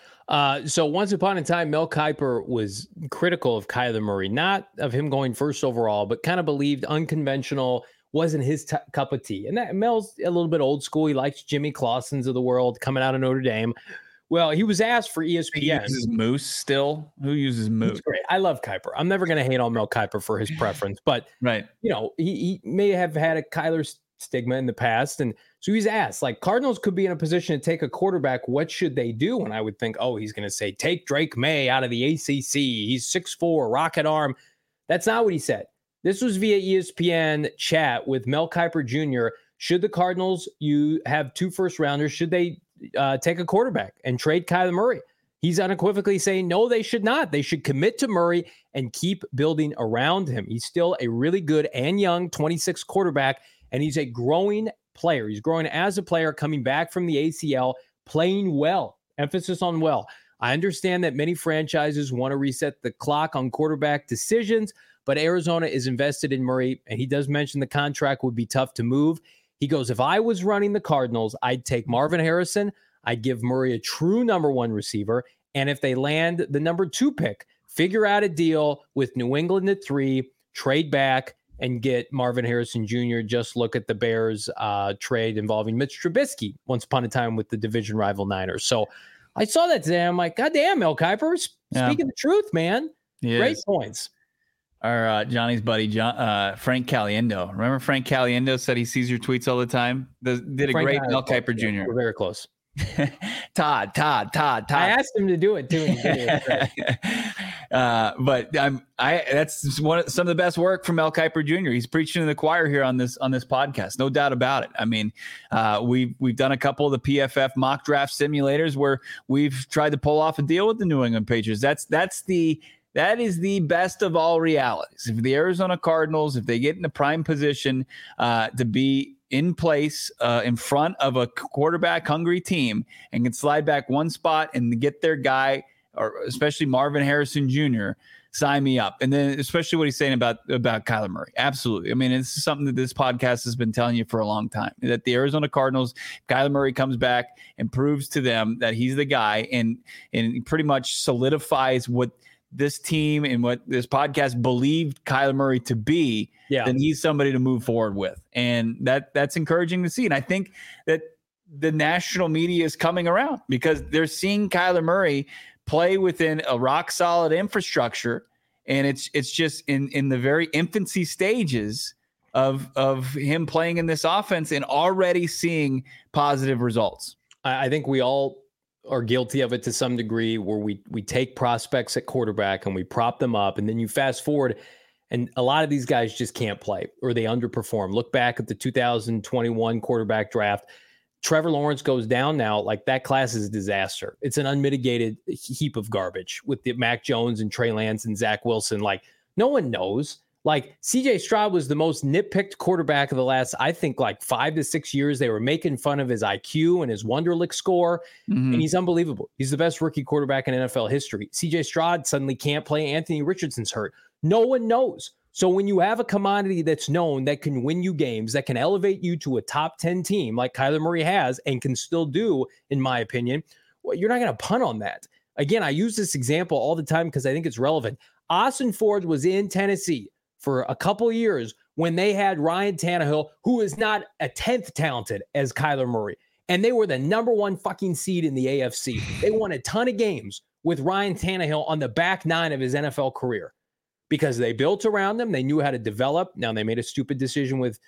So once upon a time, Mel Kiper was critical of Kyler Murray, not of him going first overall, but kind of believed unconventional, wasn't his cup of tea. And that Mel's a little bit old school. He likes Jimmy Clausens of the world coming out of Notre Dame. Well, he was asked for ESPN. He uses Moose still? Who uses Moose? That's great. I love Kiper. I'm never going to hate on Mel Kiper for his preference, but right. You know, he may have had a Kyler stigma in the past. And so he's asked, like, Cardinals could be in a position to take a quarterback. What should they do? And I would think, oh, he's going to say, take Drake May out of the ACC. He's 6'4", rocket arm. That's not what he said. This was via ESPN chat with Mel Kiper Jr. Should the Cardinals, you have 2 first-rounders, should they take a quarterback and trade Kyler Murray? He's unequivocally saying, no, they should not. They should commit to Murray and keep building around him. He's still a really good and young 26 quarterback, and he's a growing player. He's growing as a player, coming back from the ACL, playing well. Emphasis on well. I understand that many franchises want to reset the clock on quarterback decisions, but Arizona is invested in Murray, and he does mention the contract would be tough to move. He goes, if I was running the Cardinals, I'd take Marvin Harrison. I'd give Murray a true number 1 receiver. And if they land the number 2 pick, figure out a deal with New England at 3, trade back, and get Marvin Harrison Jr. Just look at the Bears trade involving Mitch Trubisky once upon a time with the division rival Niners. So I saw that today. I'm like, God damn, Mel Kiper, speaking the truth, man. Great points. Our Johnny's buddy, Frank Caliendo. Remember Frank Caliendo said he sees your tweets all the time? Did a great Mel Kiper Jr. We're very close. Todd. I asked him to do it too. But that's some of the best work from Mel Kiper Jr. He's preaching to the choir here on this podcast, no doubt about it. I mean, we've done a couple of the PFF mock draft simulators where we've tried to pull off a deal with the New England Patriots. That is the best of all realities. If the Arizona Cardinals, if they get in the prime position to be in place in front of a quarterback-hungry team and can slide back one spot and get their guy, or especially Marvin Harrison Jr., sign me up. And then especially what he's saying about Kyler Murray. Absolutely. I mean, it's something that this podcast has been telling you for a long time, that the Arizona Cardinals, Kyler Murray comes back and proves to them that he's the guy and pretty much solidifies what this team and what this podcast believed Kyler Murray to be, then he's somebody to move forward with. And that's encouraging to see. And I think that the national media is coming around because they're seeing Kyler Murray play within a rock solid infrastructure, and it's just in the very infancy stages of him playing in this offense and already seeing positive results. I think we all are guilty of it to some degree, where we take prospects at quarterback and we prop them up, and then you fast forward and a lot of these guys just can't play or they underperform. Look back at the 2021 quarterback draft. Trevor Lawrence goes down now. Like, that class is a disaster. It's an unmitigated heap of garbage with the Mac Jones and Trey Lance and Zach Wilson. Like, no one knows. Like, CJ Stroud was the most nitpicked quarterback of the last, I think, like 5 to 6 years. They were making fun of his IQ and his Wonderlic score, and he's unbelievable. He's the best rookie quarterback in NFL history. CJ Stroud suddenly can't play. Anthony Richardson's hurt. No one knows. So when you have a commodity that's known, that can win you games, that can elevate you to a top 10 team like Kyler Murray has and can still do, in my opinion, well, you're not going to punt on that. Again, I use this example all the time because I think it's relevant. Austin Ford was in Tennessee for a couple of years when they had Ryan Tannehill, who is not a 10th talented as Kyler Murray. And they were the number one fucking seed in the AFC. They won a ton of games with Ryan Tannehill on the back nine of his NFL career, because they built around them. They knew how to develop. Now, they made a stupid decision with,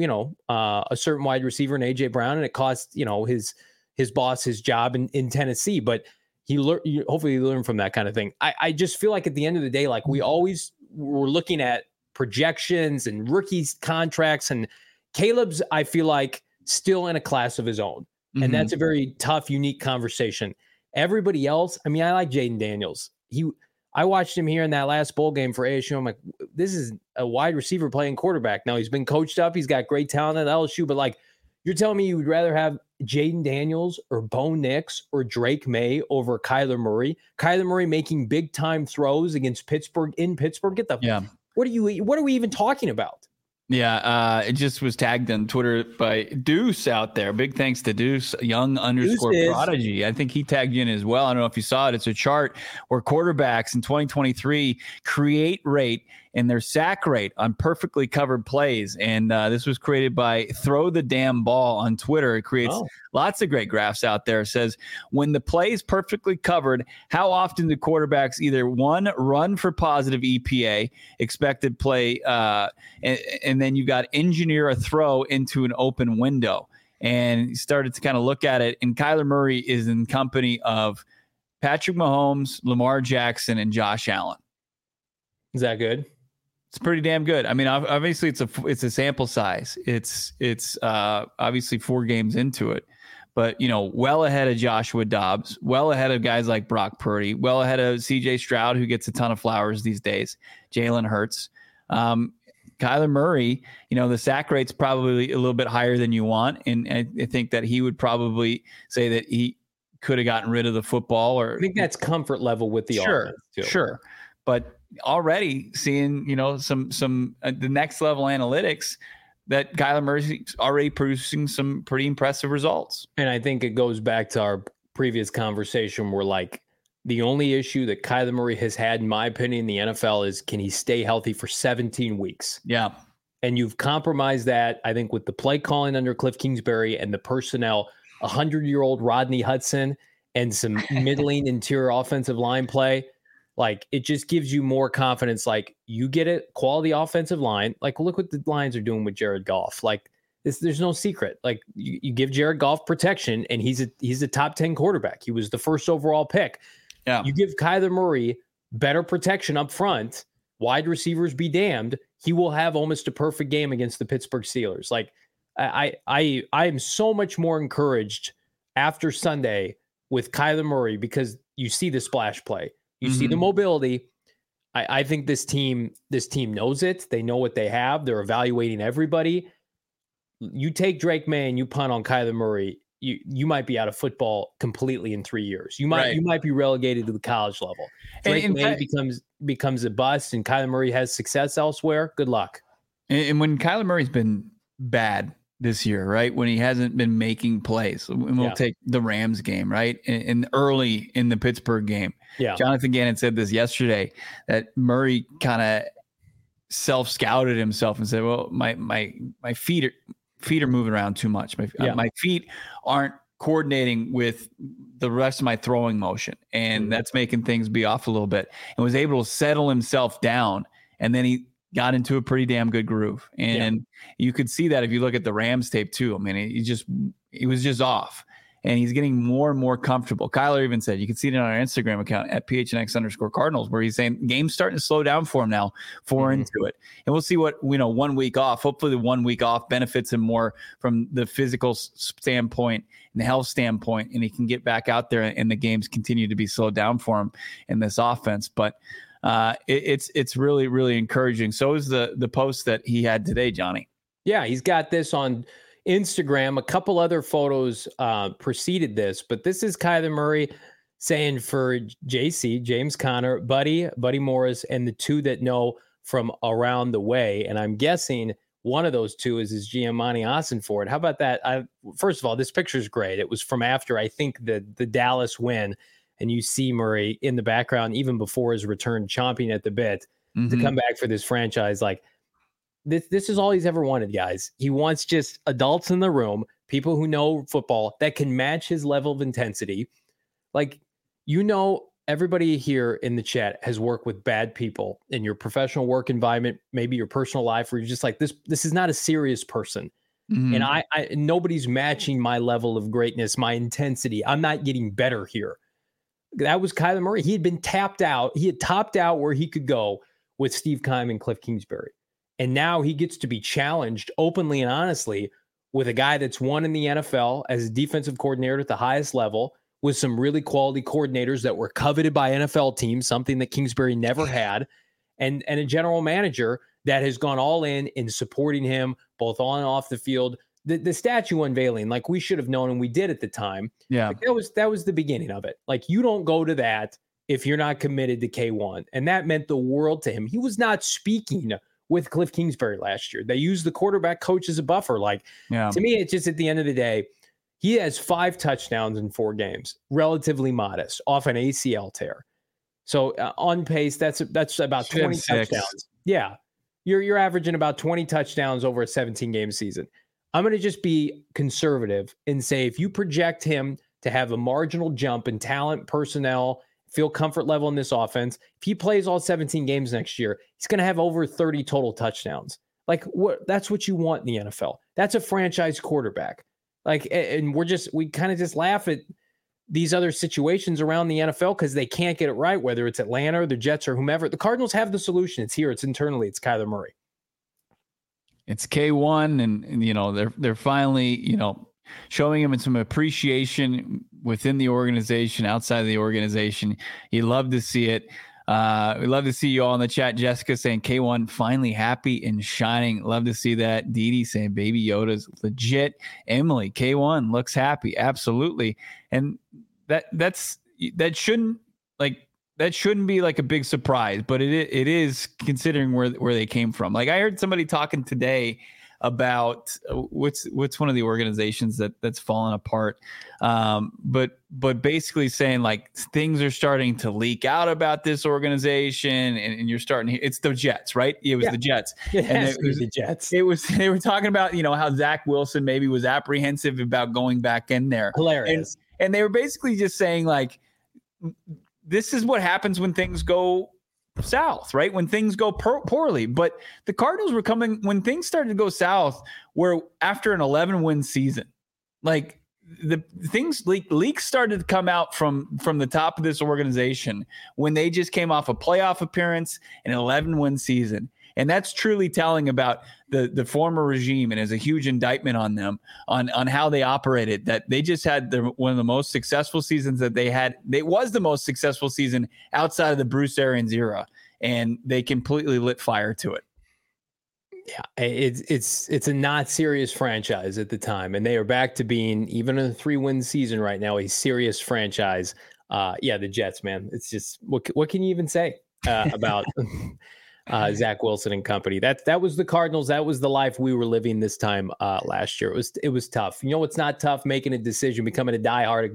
a certain wide receiver in A.J. Brown, and it cost, his boss his job in Tennessee. But hopefully he learned from that kind of thing. I just feel like at the end of the day, like, we always were looking at projections and rookies contracts, and Caleb's, I feel like, still in a class of his own. And that's a very tough, unique conversation. Everybody else, I mean, I like Jaden Daniels. I watched him here in that last bowl game for ASU. I'm like, this is a wide receiver playing quarterback. Now, he's been coached up. He's got great talent at LSU. But, like, you're telling me you would rather have Jaden Daniels or Bo Nix or Drake May over Kyler Murray? Kyler Murray making big-time throws against Pittsburgh in Pittsburgh? What are we even talking about? Yeah, it just was tagged on Twitter by Deuce out there. Big thanks to Deuce, young _ prodigy. I think he tagged you in as well. I don't know if you saw it. It's a chart where quarterbacks in 2023 create rate and their sack rate on perfectly covered plays. And this was created by Throw the Damn Ball on Twitter. It creates lots of great graphs out there. It says, when the play is perfectly covered, how often do quarterbacks either one, run for positive EPA, expected play, and then you got engineer a throw into an open window. And he started to kind of look at it. And Kyler Murray is in company of Patrick Mahomes, Lamar Jackson, and Josh Allen. Is that good? It's pretty damn good. I mean, obviously it's a sample size. It's obviously 4 games into it, but well ahead of Joshua Dobbs, well ahead of guys like Brock Purdy, well ahead of CJ Stroud, who gets a ton of flowers these days, Jalen Hurts. Kyler Murray, the sack rate's probably a little bit higher than you want. And I think that he would probably say that he could have gotten rid of the football, or I think that's comfort level with the offense too. Sure. But already seeing, some the next level analytics that Kyler Murray's already producing some pretty impressive results. And I think it goes back to our previous conversation where, like, the only issue that Kyler Murray has had, in my opinion, in the NFL is, can he stay healthy for 17 weeks? Yeah. And you've compromised that, I think, with the play calling under Cliff Kingsbury and the personnel, 100-year-old Rodney Hudson and some middling interior offensive line play. Like, it just gives you more confidence. Like, you get a quality offensive line. Like, look what the Lions are doing with Jared Goff. Like, there's no secret. Like, you give Jared Goff protection, and he's a top 10 quarterback. He was the first overall pick. Yeah. You give Kyler Murray better protection up front, wide receivers be damned, he will have almost a perfect game against the Pittsburgh Steelers. Like, I am so much more encouraged after Sunday with Kyler Murray because you see the splash play. You see the mobility. I think this team knows it. They know what they have. They're evaluating everybody. You take Drake May and you punt on Kyler Murray, you might be out of football completely in 3 years. You might be relegated to the college level. Drake May becomes a bust, and Kyler Murray has success elsewhere. Good luck. And when Kyler Murray's been bad this year, right? When he hasn't been making plays, and we'll take the Rams game, right? And early in the Pittsburgh game. Yeah. Jonathan Gannon said this yesterday, that Murray kind of self-scouted himself and said, well, my feet are moving around too much. My feet aren't coordinating with the rest of my throwing motion, and that's making things be off a little bit, and was able to settle himself down. And then he got into a pretty damn good groove. And you could see that if you look at the Rams tape too. I mean, he was just off, and he's getting more and more comfortable. Kyler even said, you can see it on our Instagram account at PHNX_Cardinals, where he's saying game's starting to slow down for him now, into it. And we'll see what, 1 week off, hopefully the 1 week off benefits him more from the physical standpoint and the health standpoint, and he can get back out there and the games continue to be slowed down for him in this offense. But it's really, really encouraging. So is the post that he had today, Johnny. Yeah, he's got this on Instagram. A couple other photos preceded this, but this is Kyler Murray saying for JC, James Conner, Buddy Morris, and the two that know from around the way. And I'm guessing one of those two is Giamatti Ossenfort. How about that? First of all, this picture is great. It was from after, I think, the Dallas win. And you see Murray in the background, even before his return, chomping at the bit to come back for this franchise. Like, this is all he's ever wanted, guys. He wants just adults in the room, people who know football that can match his level of intensity. Like, everybody here in the chat has worked with bad people in your professional work environment, maybe your personal life, where you're just like, this is not a serious person. And I nobody's matching my level of greatness, my intensity. I'm not getting better here. That was Kyler Murray. He had been tapped out. He had topped out where he could go with Steve Keim and Cliff Kingsbury. And now he gets to be challenged openly and honestly with a guy that's won in the NFL as a defensive coordinator at the highest level, with some really quality coordinators that were coveted by NFL teams, something that Kingsbury never had, and a general manager that has gone all in supporting him both on and off the field. The statue unveiling, like we should have known, and we did at the time. Yeah, like that was the beginning of it. Like, you don't go to that if you're not committed to K1, and that meant the world to him. He was not speaking with Cliff Kingsbury last year. They used the quarterback coach as a buffer. Like, to me, it's just at the end of the day, he has 5 touchdowns in 4 games, relatively modest, off an ACL tear. So on pace, that's about 20 touchdowns. Yeah, you're averaging about 20 touchdowns over a 17-game season. I'm going to just be conservative and say if you project him to have a marginal jump in talent, personnel, feel comfort level in this offense, if he plays all 17 games next year, he's going to have over 30 total touchdowns. Like, that's what you want in the NFL. That's a franchise quarterback. Like, and we kind of just laugh at these other situations around the NFL because they can't get it right, whether it's Atlanta or the Jets or whomever. The Cardinals have the solution. It's here. It's internally. It's Kyler Murray. It's K1, and they're finally showing him some appreciation within the organization, outside of the organization. You love to see it. We love to see you all in the chat. Jessica saying K1 finally happy and shining. Love to see that. Dee Dee saying Baby Yoda's legit. Emily, K1 looks happy. Absolutely. And that shouldn't be like a big surprise, but it is considering where they came from. Like, I heard somebody talking today about what's one of the organizations that's fallen apart. But basically saying like things are starting to leak out about this organization, and you're starting to, it's the Jets, right? It was the Jets. It was the Jets. They were talking about, how Zach Wilson maybe was apprehensive about going back in there. Hilarious. And they were basically just saying like, this is what happens when things go south, right? When things go poorly. But the Cardinals were coming when things started to go south, where after an 11-win season, like the things leaks started to come out from the top of this organization when they just came off a playoff appearance and an 11-win season. And that's truly telling about the former regime, and is a huge indictment on them on how they operated, that they just had one of the most successful seasons that they had. It was the most successful season outside of the Bruce Arians era, and they completely lit fire to it. Yeah, it's a not serious franchise at the time, and they are back to being, even in a 3-win season right now, a serious franchise. The Jets, man. It's just what can you even say about Zach Wilson and company? That was the Cardinals. That was the life we were living this time last year. It was tough. You know what's not tough? Making a decision, becoming a diehard at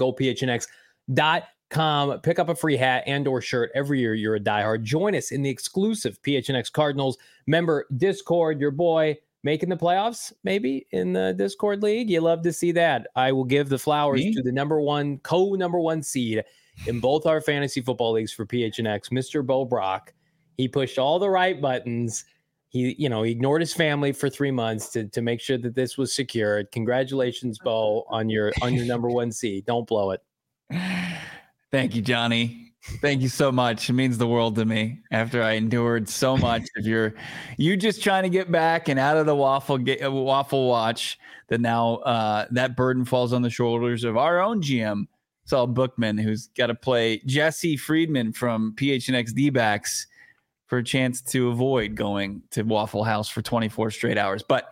GoPHNX.com. Pick up a free hat and/or shirt every year. You're a diehard. Join us in the exclusive PHNX Cardinals member Discord. Your boy making the playoffs, maybe in the Discord League. You love to see that. I will give the flowers to the number one seed in both our fantasy football leagues for PHNX, Mr. Bo Brock. He pushed all the right buttons. He ignored his family for 3 months to make sure that this was secured. Congratulations, Bo, on your number one seed. Don't blow it. Thank you, Johnny. Thank you so much. It means the world to me after I endured so much of you just trying to get back and out of the waffle watch, that now that burden falls on the shoulders of our own GM, Saul Bookman, who's got to play Jesse Friedman from PHNX D-backs for a chance to avoid going to Waffle House for 24 straight hours. But,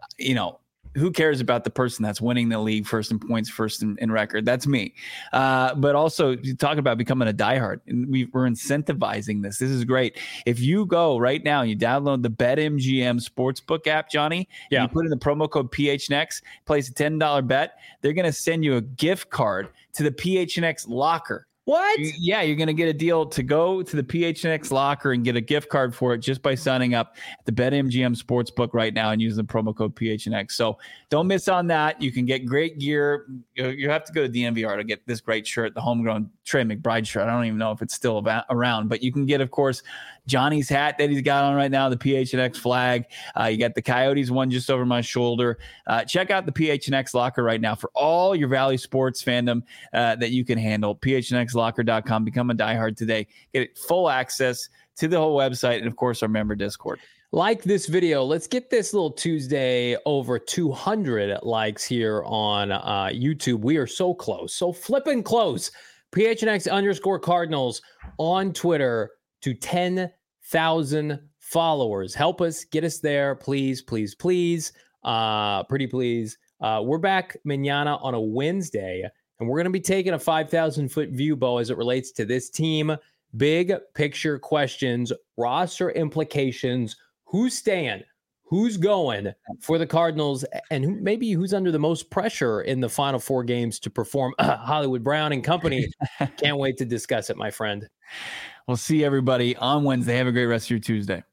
who cares about the person that's winning the league first in points, first in record? That's me. But also, you talk about becoming a diehard. And we're incentivizing this. This is great. If you go right now, you download the BetMGM Sportsbook app, Johnny, and you put in the promo code PHNX, place a $10 bet, they're going to send you a gift card to the PHNX locker. What? Yeah, you're going to get a deal to go to the PHNX locker and get a gift card for it just by signing up at the BetMGM Sportsbook right now and using the promo code PHNX. So don't miss on that. You can get great gear. You have to go to DNVR to get this great shirt, the homegrown Trey McBride shirt. I don't even know if it's still around, but you can get, of course, Johnny's hat that he's got on right now, the PHNX flag. You got the Coyotes one just over my shoulder. Check out the PHNX locker right now for all your Valley sports fandom that you can handle. PHNXlocker.com. Become a diehard today. Get full access to the whole website and, of course, our member Discord. Like this video. Let's get this little Tuesday over 200 likes here on YouTube. We are so close. So flipping close. PHNX_Cardinals on Twitter to 10,000 followers. Help us get us there, please, please, please. Pretty please. We're back mañana on a Wednesday, and we're going to be taking a 5,000-foot view, Bo, as it relates to this team. Big picture questions, roster implications, who's staying, who's going for the Cardinals, and maybe who's under the most pressure in the final 4 games to perform. Hollywood Brown and company. Can't wait to discuss it, my friend. We'll see everybody on Wednesday. Have a great rest of your Tuesday.